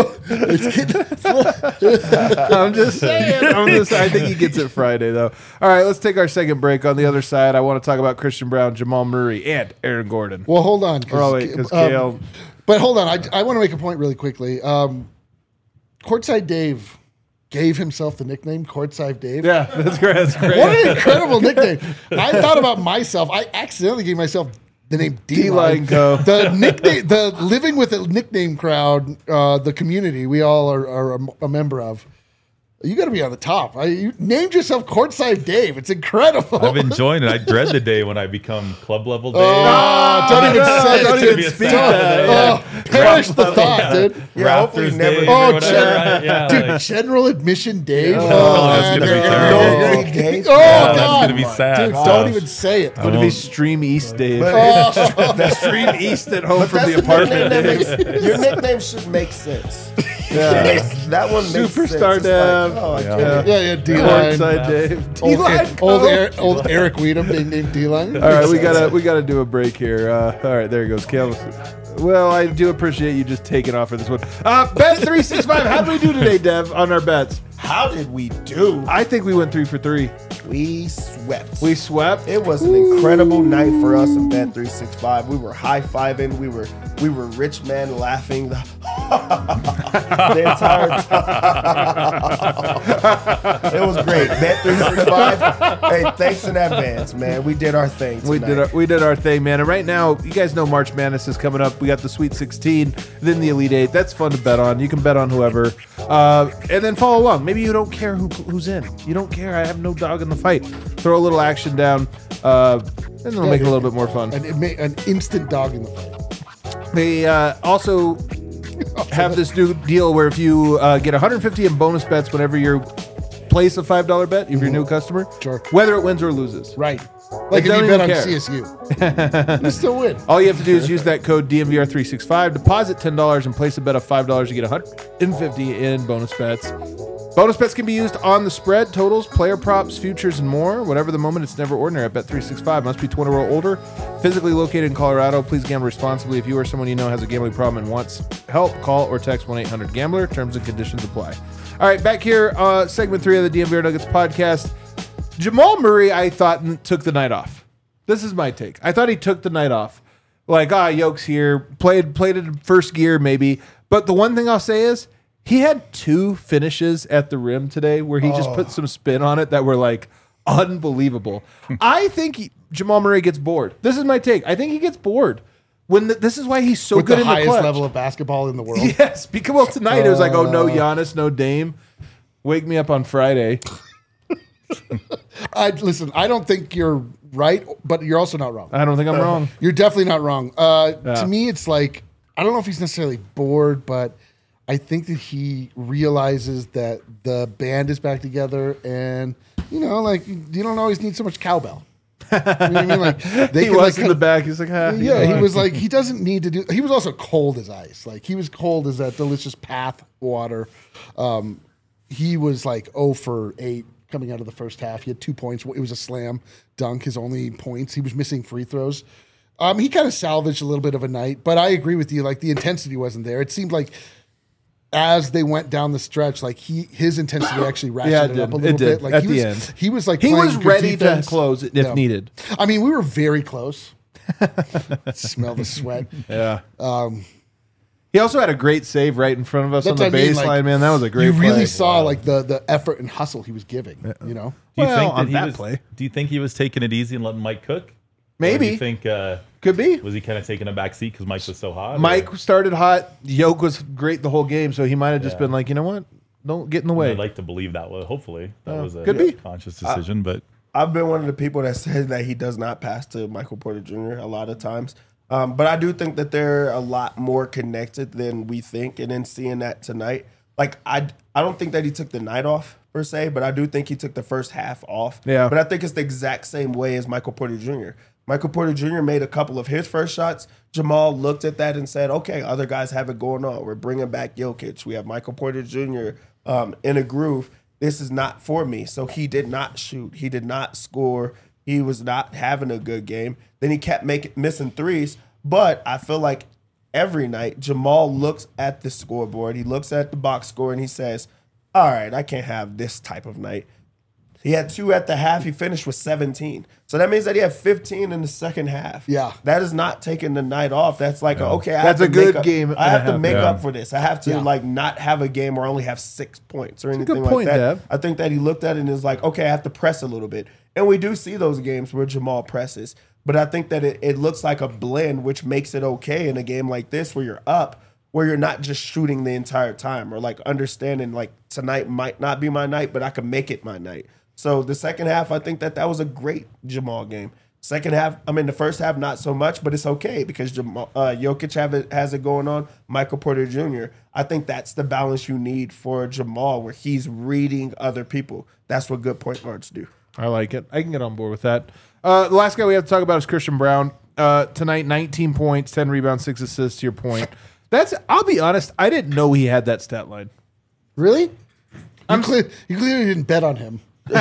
I'm just saying. I think he gets it Friday though. All right, let's take our second break. On the other side, I want to talk about Christian Brown, Jamal Murray, and Aaron Gordon. Well, hold on, Because Kale. but hold on, I want to make a point really quickly. Courtside Dave gave himself the nickname Courtside Dave. Yeah, that's great. That's great. What an incredible nickname! I thought about myself. I accidentally gave myself the name D-Line D-Line. Co. The nickname, the living with a nickname crowd, the community we all are a member of. You got to be on the top. You named yourself Courtside Dave. It's incredible. I've enjoyed it. I dread the day when I become club level Dave. Don't even say Don't it. even dude. speak Don't- that. perish the thought, dude. Yeah, hopefully Raptors never. Dave Oh, or whatever, right? Yeah, Dude, like, general admission Dave. Oh, that's gonna be man. terrible. No Dave. Oh, that's God. gonna be sad. Dude, don't even say it. I Would it be won't- Stream East Dave? But Stream East at home from that's the apartment. nickname your nickname should make sense. That one makes Superstar sense. It's Dave. Like, oh, I Yeah. get it. Yeah, D-line. Courtside Dave. Old, D-Line Co. old Eric Weedham being named D-line. All right, we gotta do a break here. All right, there he goes, Kale. Well, I do appreciate you just taking off for this one. Bet 365. How did we do today, Dev, on our bets? How did we do? I think we went 3 for 3. We swept. We swept. It was an incredible night for us in Bet 365. We were high fiving. We were rich men laughing the entire time. It was great. Bet 365. Hey, thanks in advance, man. We did our thing tonight. We did our thing, man. And right now, you guys know March Madness is coming up. We got the Sweet 16, then the Elite 8. That's fun to bet on. You can bet on whoever, and then follow along. Maybe you don't care who's in. You don't care. I have no dog in the fight. Throw a little action down, and it'll make it a little bit more fun. An instant dog in the fight. They also have this new deal where if you get 150 in bonus bets whenever you place a $5 bet, if you're a new customer, Sure. whether it wins or loses. Right. Like if don't you bet even on care. CSU. You still win. All you have to do is use that code DMVR365, deposit $10 and place a bet of $5. You get 150 in bonus bets. Bonus bets can be used on the spread, totals, player props, futures, and more. Whatever the moment, it's never ordinary at Bet365. Must be 21 or older. Physically located in Colorado. Please gamble responsibly. If you or someone you know has a gambling problem and wants help, call or text 1-800-GAMBLER. Terms and conditions apply. All right, back here, segment 3 of the DMVR Nuggets podcast. Jamal Murray, I thought, took the night off. This is my take. I thought he took the night off. Like, Yoke's here. Played it in first gear, maybe. But the one thing I'll say is, he had 2 finishes at the rim today where he just put some spin on it that were like unbelievable. I think Jamal Murray gets bored. This is my take. I think he gets bored. This is why he's so With good the in the highest clutch. level of basketball in the world. Yes, because well tonight it was like, oh no Giannis, no Dame. Wake me up on Friday. Listen, I don't think you're right, but you're also not wrong. I don't think I'm wrong. You're definitely not wrong. To me, it's like, I don't know if he's necessarily bored, but I think that he realizes that the band is back together and, like, you don't always need so much cowbell. You know what I mean? Like, they He can, was like, in the back. He's like, yeah, he was like, he doesn't need to do. He was also cold as ice. Like, he was cold as that delicious path water. He was like 0 for 8 coming out of the first half. He had 2 points. It was a slam dunk, his only points. He was missing free throws. He kind of salvaged a little bit of a night, but I agree with you. Like, the intensity wasn't there. It seemed like as they went down the stretch, like his intensity actually ratcheted up a little bit. Like at he the was, end. he was like He playing was good ready defense. to close it if needed. I mean, we were very close. Smell the sweat. Yeah. He also had a great save right in front of us That's on the what I mean, baseline, like, man. That was a great You really play. saw like the effort and hustle he was giving. You know, Do you Well, think on he that was? play. Do you think he was taking it easy and letting Mike cook? Or Maybe. do you think Could be. was he kind of taking a back seat because Mike was so hot? Mike or- started hot. Yoke was great the whole game, so he might have just been like, you know what? Don't get in the way. I'd like to believe that. Well, hopefully that was a could be. conscious decision, but. I've been one of the people that says that he does not pass to Michael Porter Jr. a lot of times. But I do think that they're a lot more connected than we think. And then seeing that tonight, like I don't think that he took the night off per se, but I do think he took the first half off. Yeah. But I think it's the exact same way as Michael Porter Jr. Michael Porter Jr. made a couple of his first shots. Jamal looked at that and said, okay, other guys have it going on. We're bringing back Jokic. We have Michael Porter Jr. In a groove. This is not for me. So he did not shoot. He did not score. He was not having a good game. Then he kept missing threes. But I feel like every night Jamal looks at the scoreboard. He looks at the box score and he says, all right, I can't have this type of night. He had 2 at the half. He finished with 17. So that means that he had 15 in the second half. Yeah. That is not taking the night off. That's like, okay, I That's have a to make good up- game I and have a to half. make Yeah. up for this. I have to like not have a game where I only have 6 points or anything good like point, that. Dev. I think that he looked at it and is like, okay, I have to press a little bit. And we do see those games where Jamal presses. But I think that it looks like a blend, which makes it okay in a game like this where you're up, where you're not just shooting the entire time or like understanding like tonight might not be my night, but I can make it my night. So the second half, I think that was a great Jamal game. Second half, I mean, the first half, not so much, but it's okay because Jokic has it going on. Michael Porter Jr., I think that's the balance you need for Jamal where he's reading other people. That's what good point guards do. I like it. I can get on board with that. The last guy we have to talk about is Christian Brown. Tonight, 19 points, 10 rebounds, 6 assists, to your point. I'll be honest, I didn't know he had that stat line. really? You clearly didn't bet on him. So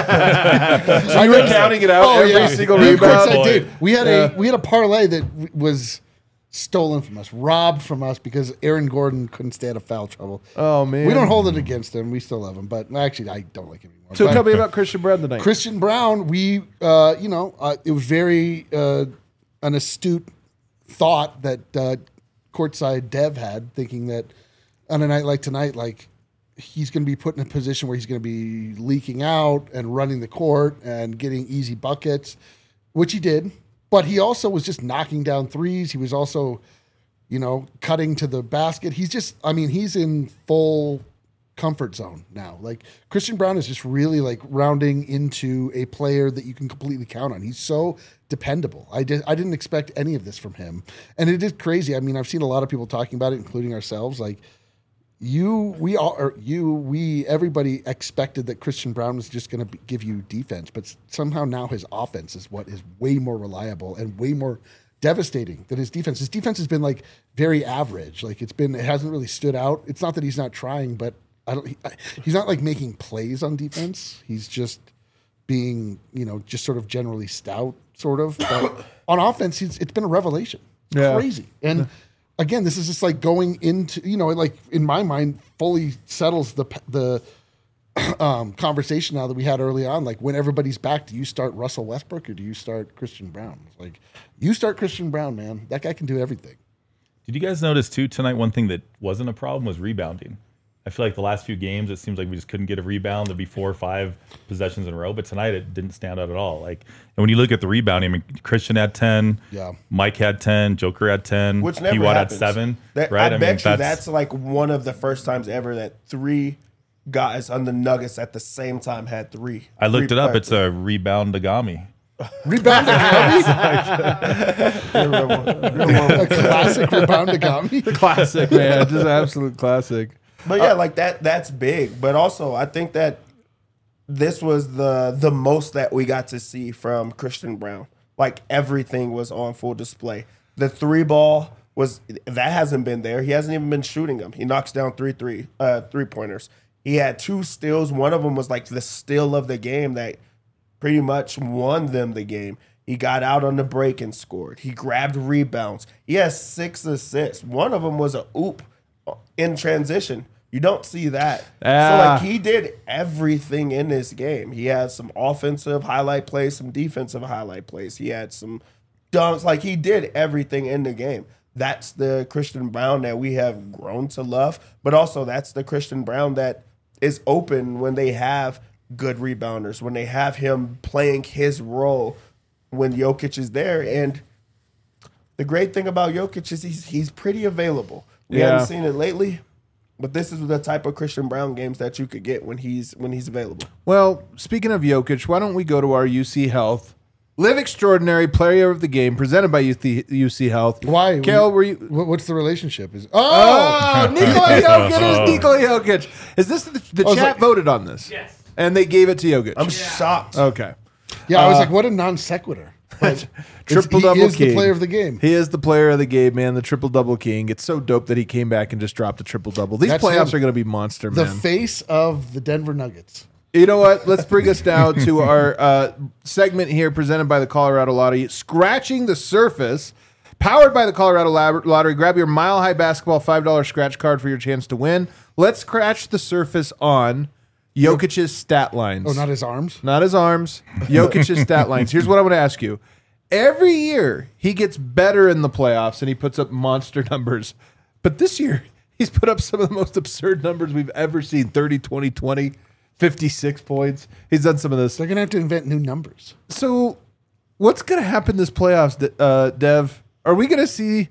you were counting it out every single Me and rebound? Courtside did. We had a parlay that was stolen from us, robbed from us because Aaron Gordon couldn't stay out of foul trouble. Oh, man. We don't hold it against him. We still love him, but actually, I don't like him anymore. So But tell me about Christian Brown tonight. Christian Brown, it was very an astute thought that courtside Dev had, thinking that on a night like tonight, like he's going to be put in a position where he's going to be leaking out and running the court and getting easy buckets, which he did. But he also was just knocking down threes. He was also, cutting to the basket. He's in full comfort zone now. Like Christian Brown is just really like rounding into a player that you can completely count on. He's so dependable. I didn't expect any of this from him. And it is crazy. I mean, I've seen a lot of people talking about it, including ourselves. Like everybody expected that Christian Brown was just going to give you defense, but somehow now his offense is what is way more reliable and way more devastating than his defense. His defense has been like very average. Like it hasn't really stood out. It's not that he's not trying, but he's not like making plays on defense. He's just being, just sort of generally stout, sort of. But on offense, it's been a revelation. Yeah. Crazy. And again, this is just like going into, like in my mind, fully settles the conversation now that we had early on. Like when everybody's back, do you start Russell Westbrook or do you start Christian Brown? It's like, you start Christian Brown, man. That guy can do everything. Did you guys notice too tonight? One thing that wasn't a problem was rebounding. I feel like the last few games, it seems like we just couldn't get a rebound. There'd be 4 or 5 possessions in a row, but tonight it didn't stand out at all. Like, and when you look at the rebounding, I mean, Christian had 10, Yeah. Mike had 10, Joker had 10, Which never P-Watt had happens. 7. That, right? I bet you that's like one of the first times ever that 3 guys on the Nuggets at the same time had 3. I looked it up. It's It's a rebound Dagami. Rebound a classic rebound Agami. Classic, man. Just an absolute classic. But yeah, like that's big. But also, I think that this was the most that we got to see from Christian Brown. Like everything was on full display. The 3 ball that hasn't been there. He hasn't even been shooting them. He knocks down 3 3-pointers. He had 2 steals. One of them was like the steal of the game that pretty much won them the game. He got out on the break and scored. He grabbed rebounds. He has 6 assists. One of them was a oop in transition. You don't see that. So like he did everything in this game. He had some offensive highlight plays, some defensive highlight plays. He had some dunks. Like he did everything in the game. that's the Christian Brown that we have grown to love, but also that's the Christian Brown that is open when they have good rebounders, when they have him playing his role when Jokic is there. And the great thing about Jokic is he's pretty available. We haven't seen it lately, but this is the type of Christian Brown games that you could get when he's available. Well, speaking of Jokic, why don't we go to our UC Health Live Extraordinary Player of the Game presented by UC Health? Why? Kale, were you? What's the relationship? Oh, Nikola Jokic is Nikola Jokic. Is this the chat voted on this? Yes. And they gave it to Jokic. I'm shocked. Okay. Yeah, I was like, what a non sequitur. Triple-double He is king. the player of the game. He is the player of the game, man. The triple-double king. It's so dope that he came back and just dropped a triple-double. These That's playoffs him. are going to be monster, The man. face of the Denver Nuggets. You know what? Let's bring us down to our segment here presented by the Colorado Lottery. Scratching the Surface, powered by the Colorado Lottery. Grab your Mile High Basketball $5 scratch card for your chance to win. Let's scratch the surface on Jokic's stat lines. Oh, not his arms? Not his arms. Jokic's stat lines. Here's what I'm going to ask you. Every year, he gets better in the playoffs and he puts up monster numbers. But this year, he's put up some of the most absurd numbers we've ever seen. 30, 20, 20, 56 points. He's done some of this. They're going to have to invent new numbers. So what's going to happen this playoffs, Dev? Are we going to see,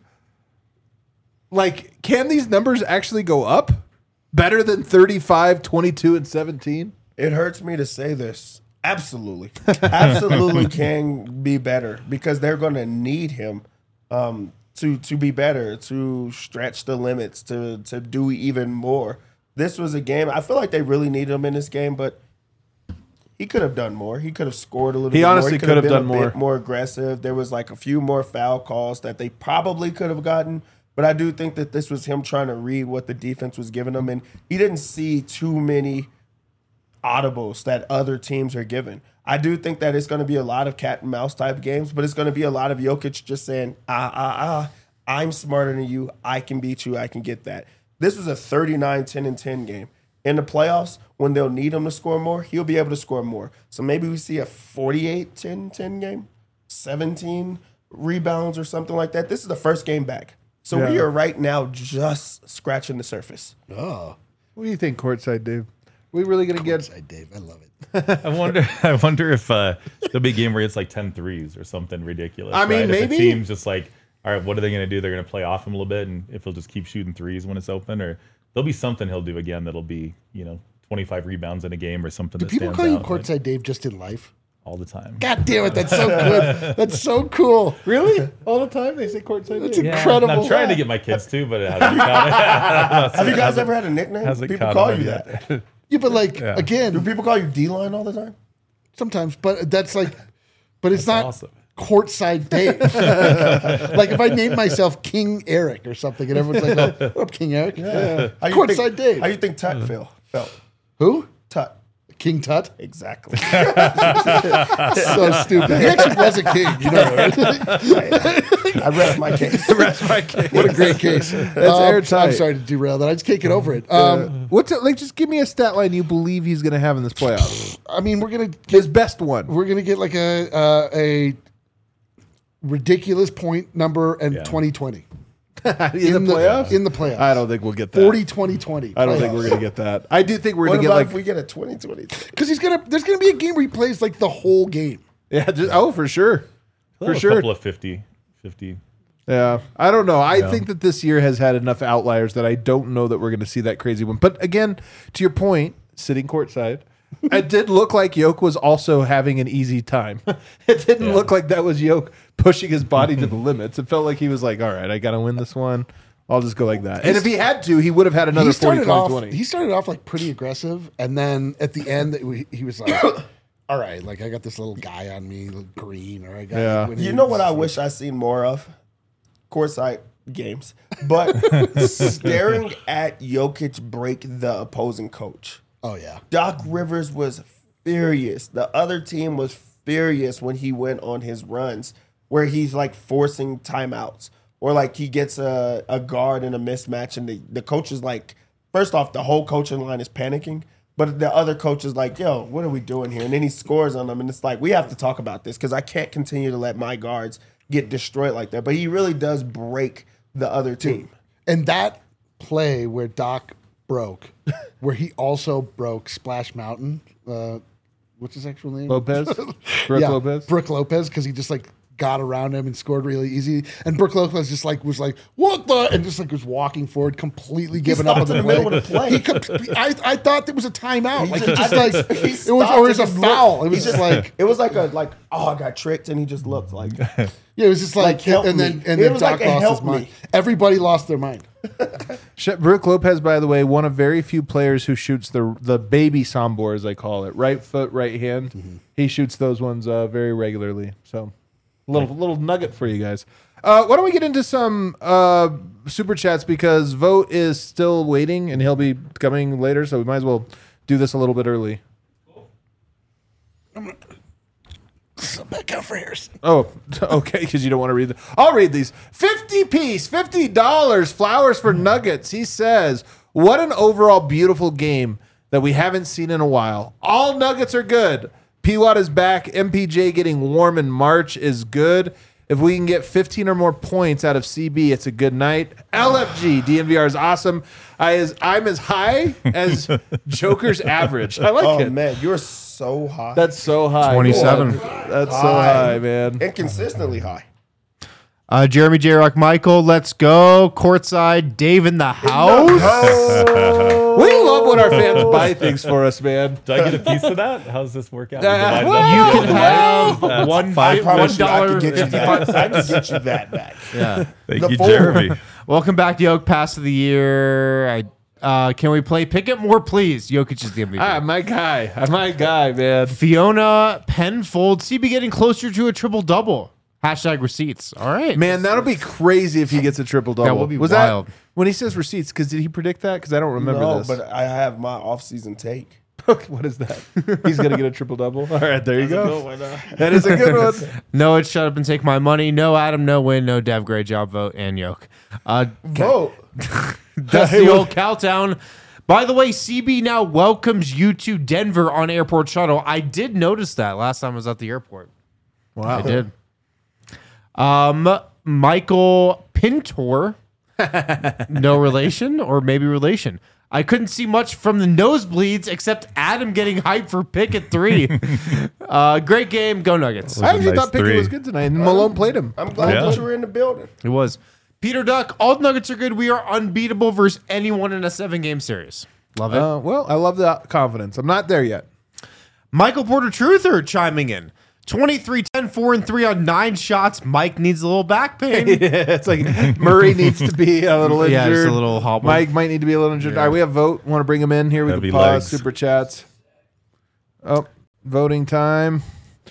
like, can these numbers actually go up? Better than 35, 22, and 17? It hurts me to say this. Absolutely. Absolutely can be better because they're going to need him to be better, to stretch the limits, to do even more. This was a game. I feel like they really needed him in this game, but he could have done more. He could have scored a little bit more. He honestly could have done more. Bit more aggressive. There was like a few more foul calls that they probably could have gotten. But I do think that this was him trying to read what the defense was giving him. And he didn't see too many audibles that other teams are given. I do think that it's going to be a lot of cat and mouse type games, but it's going to be a lot of Jokic just saying, I'm smarter than you. I can beat you. I can get that. This was a 39-10-10 game. In the playoffs, when they'll need him to score more, he'll be able to score more. So maybe we see a 48-10-10 game, 17 rebounds or something like that. This is the first game back. So we are right now just scratching the surface. Oh. What do you think, courtside, Dave? We really going to get... Courtside Dave. I love it. I wonder if there'll be a game where it's like 10 threes or something ridiculous. I mean, right? maybe. If the team's just like, all right, what are they going to do? They're going to play off him a little bit, and if he'll just keep shooting threes when it's open, or there'll be something he'll do again that'll be, 25 rebounds in a game or something. Do that people stands call you out, courtside Dave just in life? all the time? God damn it. That's so good. That's so cool. Really? All the time they say courtside. That's Dave? incredible. I'm trying to get my kids to, but it hasn't caught Have you guys ever had a nickname? hasn't People caught call on you yet. that. Yeah, but like, Yeah. again, Do people call you D-line all the time? sometimes, but that's like, but it's not awesome. courtside Dave. Like if I named myself King Eric or something and everyone's like, oh, what up, King Eric? Yeah. How you Courtside think, Dave. How you think Tut felt? Who? Tut. King Tut? Exactly. So stupid. He actually was a king, you know. Right? I rest my case. What a great case. That's airtight. I'm sorry to derail that. I just can't get over it. What's it like? Just give me a stat line you believe he's going to have in this playoffs. I mean, we're gonna His best one. we're gonna get like a ridiculous point number and 2020 in the playoffs? In the playoffs, I don't think we'll get that. 40-20-20. I don't think we're going to get that. I do think we're What going to get about like if we get a 2020? because there's gonna be a game where he plays like the whole game. yeah, just, for sure. For A sure. couple of 50. Yeah, I don't know. I think that this year has had enough outliers that I don't know that we're going to see that crazy one. But again, to your point, sitting courtside, it did look like Yoke was also having an easy time. It didn't look like that was Yoke pushing his body to the limits. It felt like he was like, all right, I got to win this one. I'll just go like that. And if he had to, he would have had another 40-20. He started off like pretty aggressive, and then at the end, he was like, "All right, like I got this little guy on me, little green, or I got." Yeah. when You he- know what I wish I seen more of? Courtside games. But staring at Jokic break the opposing coach. Oh yeah. Doc Rivers was furious. The other team was furious when he went on his runs where he's like forcing timeouts or like he gets a guard in a mismatch and the coach is like, first off, the whole coaching line is panicking. But the other coach is like, yo, what are we doing here? And then he scores on them. And it's like, we have to talk about this because I can't continue to let my guards get destroyed like that. But he really does break the other team. And that play where Doc broke, where he also broke Splash Mountain. What's his actual name? Lopez? Brooke Lopez? Brooke Lopez, because he just like got around him and scored really easy. And Brooke Lopez just like was like, what the? And just like was walking forward, completely giving up on stopped the in the middle of the play. I thought there was a timeout. Like he just I like think he it was, stopped or it was a and just foul. looked. It was He just like It was like I got tricked, and he just looked like. yeah, it was just like, help and me. then It was Doc like a lost help his mind. me. Everybody lost their mind. Brooke Lopez, by the way, one of very few players who shoots the baby sambor, as I call it, right foot, right hand. Mm-hmm. He shoots those ones very regularly. So, little nugget for you guys. Why don't we get into some super chats, because Vote is still waiting and he'll be coming later, so we might as well do this a little bit early. So back out for Harrison. Oh, okay, because you don't want to read them. I'll read these. 50 piece, $50, flowers for Nuggets. He says, what an overall beautiful game that we haven't seen in a while. All Nuggets are good. P-Watt is back. MPJ getting warm in March is good. If we can get 15 or more points out of CB, it's a good night. LFG, DNVR is awesome. I'm as high as Joker's average. I like Oh it. man, you're so high. That's so high. 27. That's so high, man. and consistently high. Jeremy J. Rock Michael, let's go. Courtside, Dave in the house. We love when our fans buy things for us, man. Do I get a piece of that? How does this work out? well, You can have I promise you, I $1 can get you that. I can get you that back. Yeah. Thank The you, four. Jeremy. Welcome back to Yoke Pass of the Year. Can we play Pick It More, please? Jokic is the MVP. My guy, man. Fiona Penfold, CB getting closer to a triple-double. Hashtag receipts. All right. Man, that'll be crazy if he gets a triple double. That will be Was wild. that when he says receipts? Because did he predict that? Because I don't remember No, this. but I have my off-season take. What is that? He's gonna get a triple double. All right, there you go. Go, That is a good one. No, it's shut up and take my money. No, Adam, no win. No, Dev, great job, vote, and Yoke. Vote. That's the old Cowtown. By the way, CB now welcomes you to Denver on airport shuttle. I did notice that last time I was at the airport. Wow. I did. Michael Pintor, no relation or maybe relation. I couldn't see much from the nosebleeds except Adam getting hyped for pick at 3. Great game. Go Nuggets. I actually Nice thought Pickett three. was good tonight, and Malone played him. I'm glad Yeah. that you were in the building. It was. Peter Duck, all the Nuggets are good. We are unbeatable versus anyone in a 7-game series. Love it. Well, I love the confidence. I'm not there yet. Michael Porter Truther chiming in. 23, 10, 4, and 3 on 9 shots. Mike needs a little back pain. It's like Murray needs to be a little injured. Yeah, just a little hobble. Mike might need to be a little injured. All right, we have vote. Want to bring him in here? We That'd can be pause. legs. Super chats. Oh, voting time.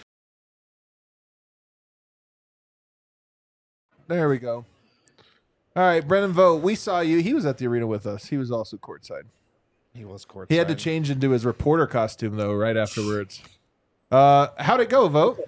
There we go. All right, Brennan Vogt, we saw you. He was at the arena with us. He was also courtside. He was courtside. He had to change into his reporter costume, though, right afterwards. How'd it go, Vogt?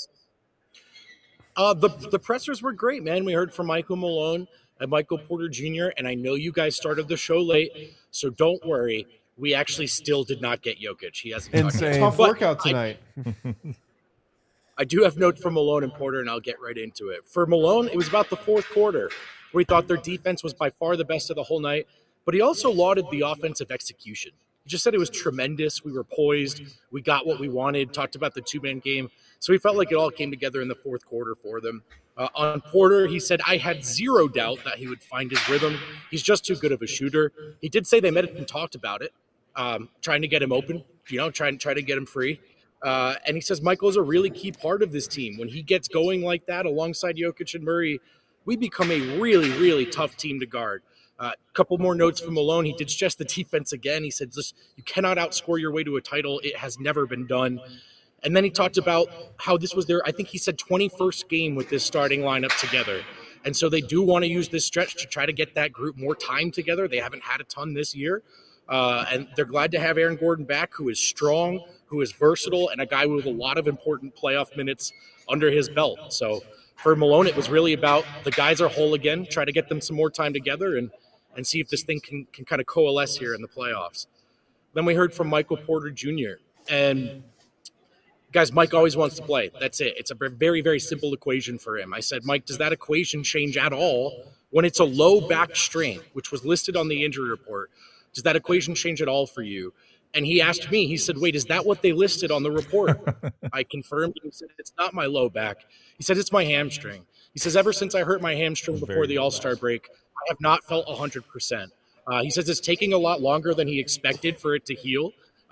The pressers were great, man. We heard from Michael Malone and Michael Porter Jr., and I know you guys started the show late, so don't worry. We actually still did not get Jokic. He hasn't touched it. Insane. Tough But workout tonight. I do have notes from Malone and Porter, and I'll get right into it. For Malone, it was about the fourth quarter where he thought their defense was by far the best of the whole night, but he also lauded the offensive execution. He just said it was tremendous. We were poised. We got what we wanted, talked about the two-man game. So he felt like it all came together in the fourth quarter for them. On Porter, he said, I had zero doubt that he would find his rhythm. He's just too good of a shooter. He did say they met and talked about it, trying to get him open, trying to get him free. And he says Michael's a really key part of this team. When he gets going like that alongside Jokic and Murray, we become a really, really tough team to guard. A couple more notes from Malone. He did stress the defense again. He said, you cannot outscore your way to a title. It has never been done. And then he talked about how this was their, I think he said 21st game with this starting lineup together. And so they do want to use this stretch to try to get that group more time together. They haven't had a ton this year. And they're glad to have Aaron Gordon back, who is strong, who is versatile, and a guy with a lot of important playoff minutes under his belt. So for Malone, it was really about the guys are whole again, try to get them some more time together and see if this thing can kind of coalesce here in the playoffs. Then we heard from Michael Porter Jr. And guys, Mike always wants to play. That's it. It's a very, very simple equation for him. I said, Mike, does that equation change at all When it's a low back strain, which was listed on the injury report, does that equation change at all for you? And he asked me, he said, wait, is that what they listed on the report? I confirmed. He said, it's not my low back. He said, it's my hamstring. He says, ever since I hurt my hamstring before the All-Star break, I have not felt 100%. He says it's taking a lot longer than he expected for it to heal.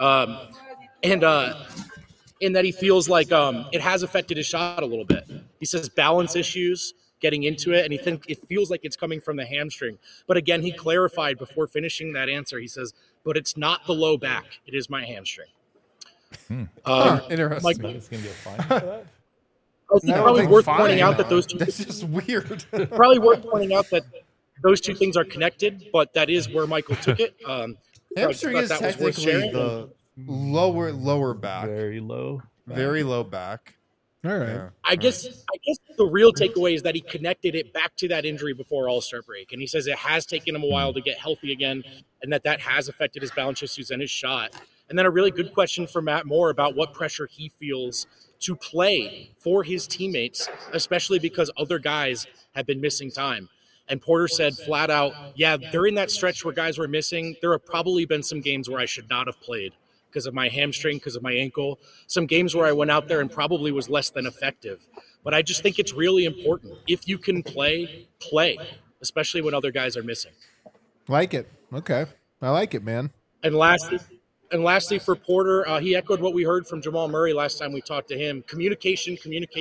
And that he feels like it has affected his shot a little bit. He says balance issues getting into it, and he thinks it feels like it's coming from the hamstring. But again, he clarified before finishing that answer. He says, but it's not the low back. It is my hamstring. Interesting. Mike, It's gonna be a fine for that. I think probably worth pointing out that those two That's just weird. probably worth pointing out that those two things are connected, but that is where Michael took it. Hamstring is that was worth technically sharing. the lower back. Very low. Very low back. All right. Yeah. I guess the real takeaway is that he connected it back to that injury before All-Star break. And he says it has taken him a while to get healthy again, and that has affected his balance issues and his shot. And then a really good question for Matt Moore about what pressure he feels to play for his teammates, especially because other guys have been missing time. And Porter said flat out, yeah, during that stretch where guys were missing, there have probably been some games where I should not have played because of my hamstring, because of my ankle, some games where I went out there and probably was less than effective. But I just think it's really important. If you can play, especially when other guys are missing. Like it. Okay. I like it, man. And lastly for Porter, he echoed what we heard from Jamal Murray last time we talked to him. Communication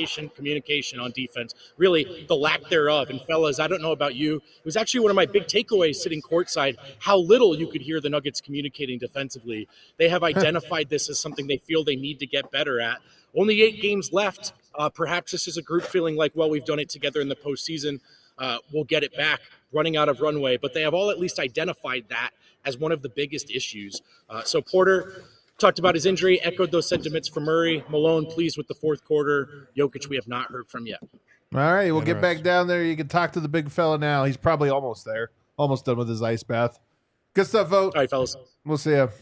on defense. Really, the lack thereof. And fellas, I don't know about you. It was actually one of my big takeaways sitting courtside, how little you could hear the Nuggets communicating defensively. They have identified this as something they feel they need to get better at. Only 8 games left. Perhaps this is a group feeling like, well, we've done it together in the postseason. We'll get it back, running out of runway. But they have all at least identified that as one of the biggest issues. So Porter talked about his injury, echoed those sentiments for Murray. Malone pleased with the fourth quarter. Jokic we have not heard from yet. All right. We'll get back down there. You can talk to the big fella now. He's probably almost there. Almost done with his ice bath. Good stuff, Vote. All right, fellas. We'll see ya.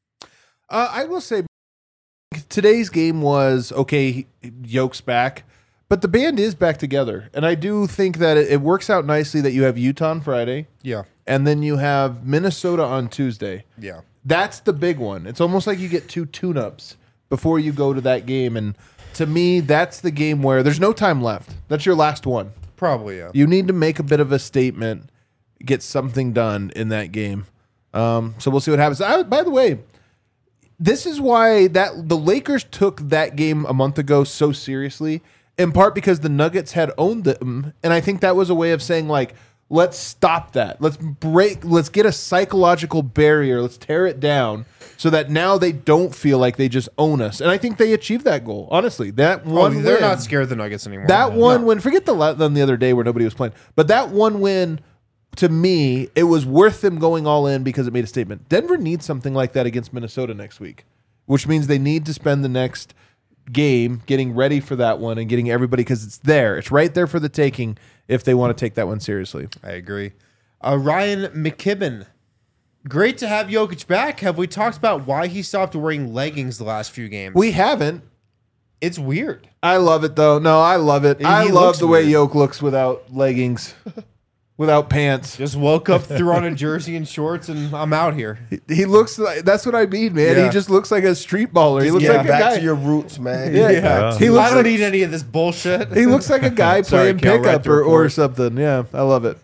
I will say today's game was, okay, Yoke's back, but the band is back together. And I do think that it works out nicely that you have Utah on Friday. Yeah. And then you have Minnesota on Tuesday. Yeah. That's the big one. It's almost like you get 2 tune-ups before you go to that game. And to me, that's the game where there's no time left. That's your last one. Probably, yeah. You need to make a bit of a statement, get something done in that game. So we'll see what happens. By the way, this is why the Lakers took that game a month ago so seriously, in part because the Nuggets had owned them. And I think that was a way of saying, like, let's stop that. Let's get a psychological barrier. Let's tear it down so that now they don't feel like they just own us. And I think they achieved that goal. Honestly, that one they're win, not scared of the Nuggets anymore. that one win, forget the other day where nobody was playing, but that one win, to me, it was worth them going all in because it made a statement. Denver needs something like that against Minnesota next week, which means they need to spend the next game getting ready for that one and getting everybody, because it's there. It's right there for the taking if they want to take that one seriously. I agree. Ryan McKibben. Great to have Jokic back. Have we talked about why he stopped wearing leggings the last few games? We haven't. It's weird. I love it, though. No, I love it. I love looks the way weird. Yoke looks without leggings, without pants. Just woke up, threw on a jersey and shorts, and I'm out here. He looks like, that's what I mean, man. Yeah. He just looks like a street baller. He looks Get like a back guy. to your roots, man. Yeah. Get back to He your looks I don't like- need any of this bullshit. He looks like a guy Sorry, playing Cal, read pickup the or report. something. Yeah, I love it.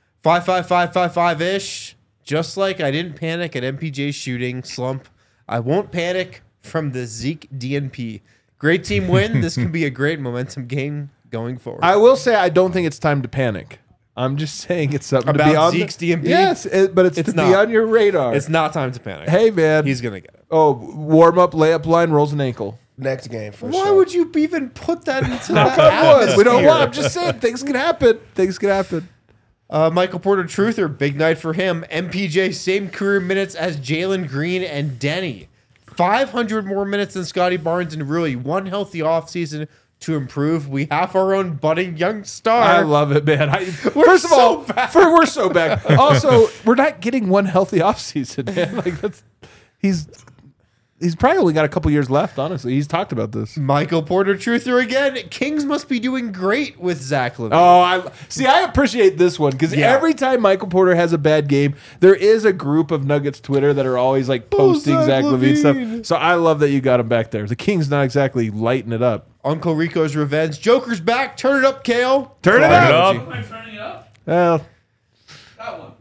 5-5-5-5-5-ish. Just like I didn't panic at MPJ's shooting slump, I won't panic from the Zeke DNP. Great team win. This can be a great momentum game going forward. I will say I don't think it's time to panic. I'm just saying it's something to be About on Zeke's DNP? Yes, but it's to be not. on your radar. It's not time to panic. Hey, man. He's going to get it. Oh, warm up, layup line, rolls an ankle. next game for Why sure. would you even put that into that Come on, we don't atmosphere? want. I'm just saying things can happen. Things can happen. Michael Porter Truther, big night for him. MPJ, same career minutes as Jalen Green and Denny. 500 more minutes than Scotty Barnes and Rui. One healthy offseason to improve. We have our own budding young star. I love it, man. First of all, we're so back. Also, we're not getting one healthy offseason, man. Like he he's probably only got a couple years left. Honestly, he's talked about this. Michael Porter Truther again. Kings must be doing great with Zach LaVine. Oh, I appreciate this one because every time Michael Porter has a bad game, there is a group of Nuggets Twitter that are always like posting Zach LaVine stuff. So I love that you got him back there. The Kings not exactly lighting it up. Uncle Rico's revenge. Joker's back. Turn it up, Kale. Turn it up. Am I turning it up? Well, That one.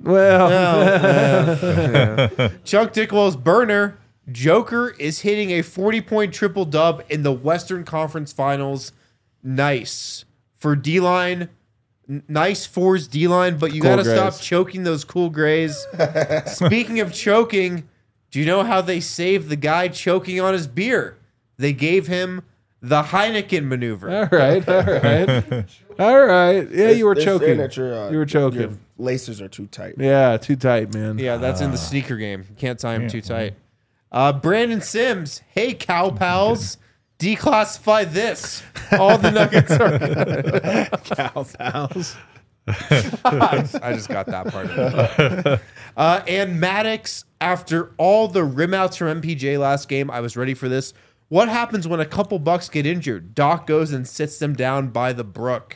Chuck Dickwell's burner. Joker is hitting a 40-point triple dub in the Western Conference Finals. Nice for D-line. Nice for his D-line, but you got to stop choking those cool grays. Speaking of choking, do you know how they saved the guy choking on his beer? They gave him the Heineken maneuver. all right. All right. Yeah, you were They're choking. saying that your, You were choking. Your laces are too tight. Yeah, too tight, man. Yeah, that's in the sneaker game. You can't tie him too tight. Brandon Sims. Hey, cow pals. Declassify this. All the Nuggets are cow pals. I just got that part of it. And Maddox, after all the rimouts from MPJ last game, I was ready for this. What happens when a couple Bucks get injured? Doc goes and sits them down by the brook.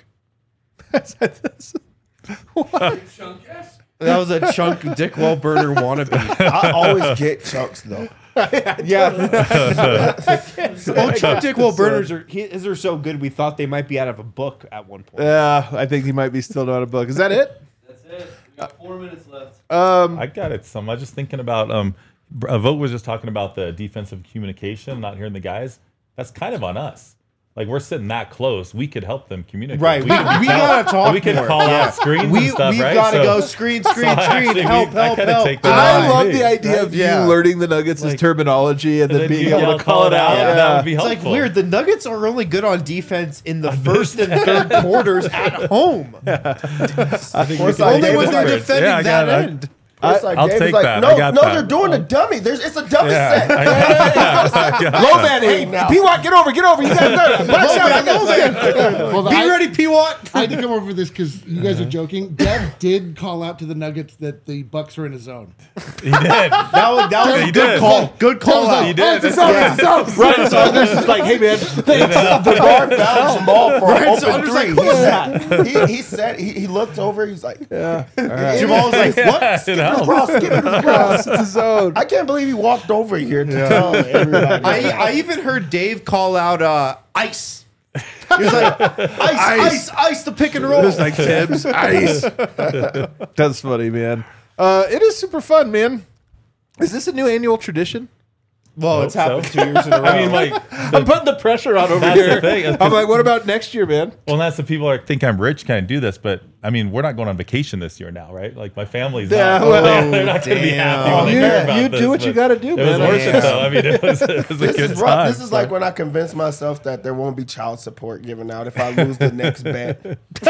Chunk ass. That was a Chunk Dickwell burner wannabe. I always get chunks though. Yeah. Well, Chunk Dickwell burners are so good, we thought they might be out of a book at one point. Yeah, I think he might be still not a book. Is that it? That's it. We got 4 minutes left. I got it. I was just thinking about Vogt was just talking about the defensive communication, not hearing the guys. That's kind of on us. Like we're sitting that close, we could help them communicate. Right, we gotta talk. We could more. call out screens and stuff, we've right? gotta So- go screen, actually, help. I love the idea of Yeah. you learning the Nuggets' terminology and then then being you able to call it out. Yeah, that would be It's helpful. like weird. The Nuggets are only good on defense in the first and third quarters at home. I think Or it's we like can- Only when they're Yeah, defending I that got it. end. It's like I'll David's take like, that. No, I got no, that. they're doing a dummy. It's a dummy Yeah. set. Low man, hey, now. P-Watt, get over. You got that. Box out, I got that. Well, Be ready, P-Watt. I had to come over for this because you guys are joking. Dev did call out to the Nuggets that the Bucks are in a zone. He did. That was He a good did. call. Good call out. He did. It's a zone, it's a zone. Right, so this is like, hey, man. The guard fouled Jamal for an so open Under's like, three. who is that? He said he looked over. He's like, Jamal was like, what? It helps. cross, skip it across. It's a zone. I can't believe he walked over here to tell everybody. I even heard Dave call out ice. He was like, ice, the pick and roll. Just like Tibbs. Ice. That's funny, man. It is super fun, man. Is this a new annual tradition? Well, it's Hope happened so. 2 years in a row. I mean, like, I'm putting the pressure on over That's here. the thing. I'm like, what about next year, man? well, that's the people that think I'm rich kind of do this, but I mean, we're not going on vacation this year now, right? Like my family's Yeah, not. well, they're not going to be happy when they You- hear about you this, do what you but gotta do, It was man. worth Yeah. it though. I mean, it was a This good is rough. time. This is like when I convince myself that there won't be child support given out if I lose the next bet.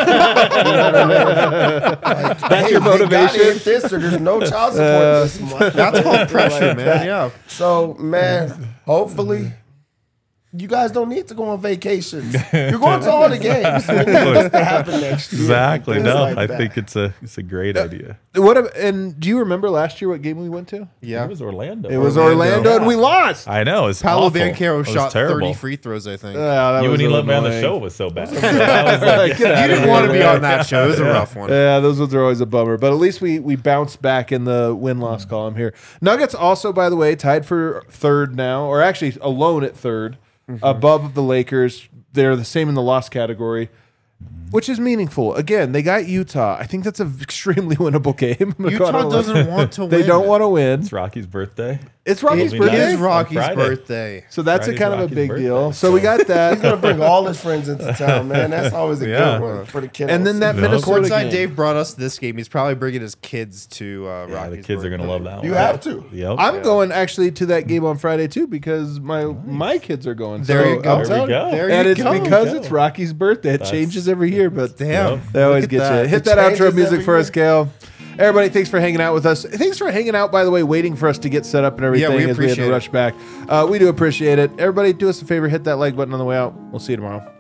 That's your They gotta motivation. hit this or there's no child support this month. That's called pressure, man. Yeah. So, man, hopefully you guys don't need to go on vacations. You're going to all the games. It needs to happen next year. Exactly. Things No, like I that. think it's a great idea. And do you remember last year what game we went to? Yeah. It was Orlando. It was Orlando, and we lost. I know. It's Paolo awful. Banchero It was shot terrible. 30 free throws, I think. That You was wouldn't even so let me on the annoying. show. It was so bad. I was like, Get out You of didn't here, want to be man. on that show. It was a rough one. Yeah, those ones are always a bummer. But at least we bounced back in the win-loss column here. Nuggets also, by the way, tied for third now, or actually alone at third, above the Lakers. They're the same in the loss category, which is meaningful. Again, they got Utah. I think that's an extremely winnable game. Utah doesn't want to win. They don't want to win. it's Rocky's birthday. It's Rocky's It birthday. It is Rocky's On Friday. birthday. So that's Friday's a kind of a Rocky's big birthday, deal. So we got He's that. going to bring all his friends into town, man. That's always a Yeah. good one for the kiddos. And then that No. Minnesota Courtside game. Dave brought us this game. He's probably bringing his kids to Rocky's Yeah, the kids are going to love that one. You have to. Yep. I'm going actually to that game on Friday too because my kids are going. There So you go. I'm There we telling you. go. There And you it's go. because it's Rocky's birthday. It changes every year, but Damn. they always Look get at that. you. Hit It that outro changes music every for us, year. Kale. Everybody, thanks for hanging out with us. Thanks for hanging out, by the way, waiting for us to get set up and everything we as we had appreciate to it. rush back. We do appreciate it. Everybody, do us a favor, hit that like button on the way out. We'll see you tomorrow.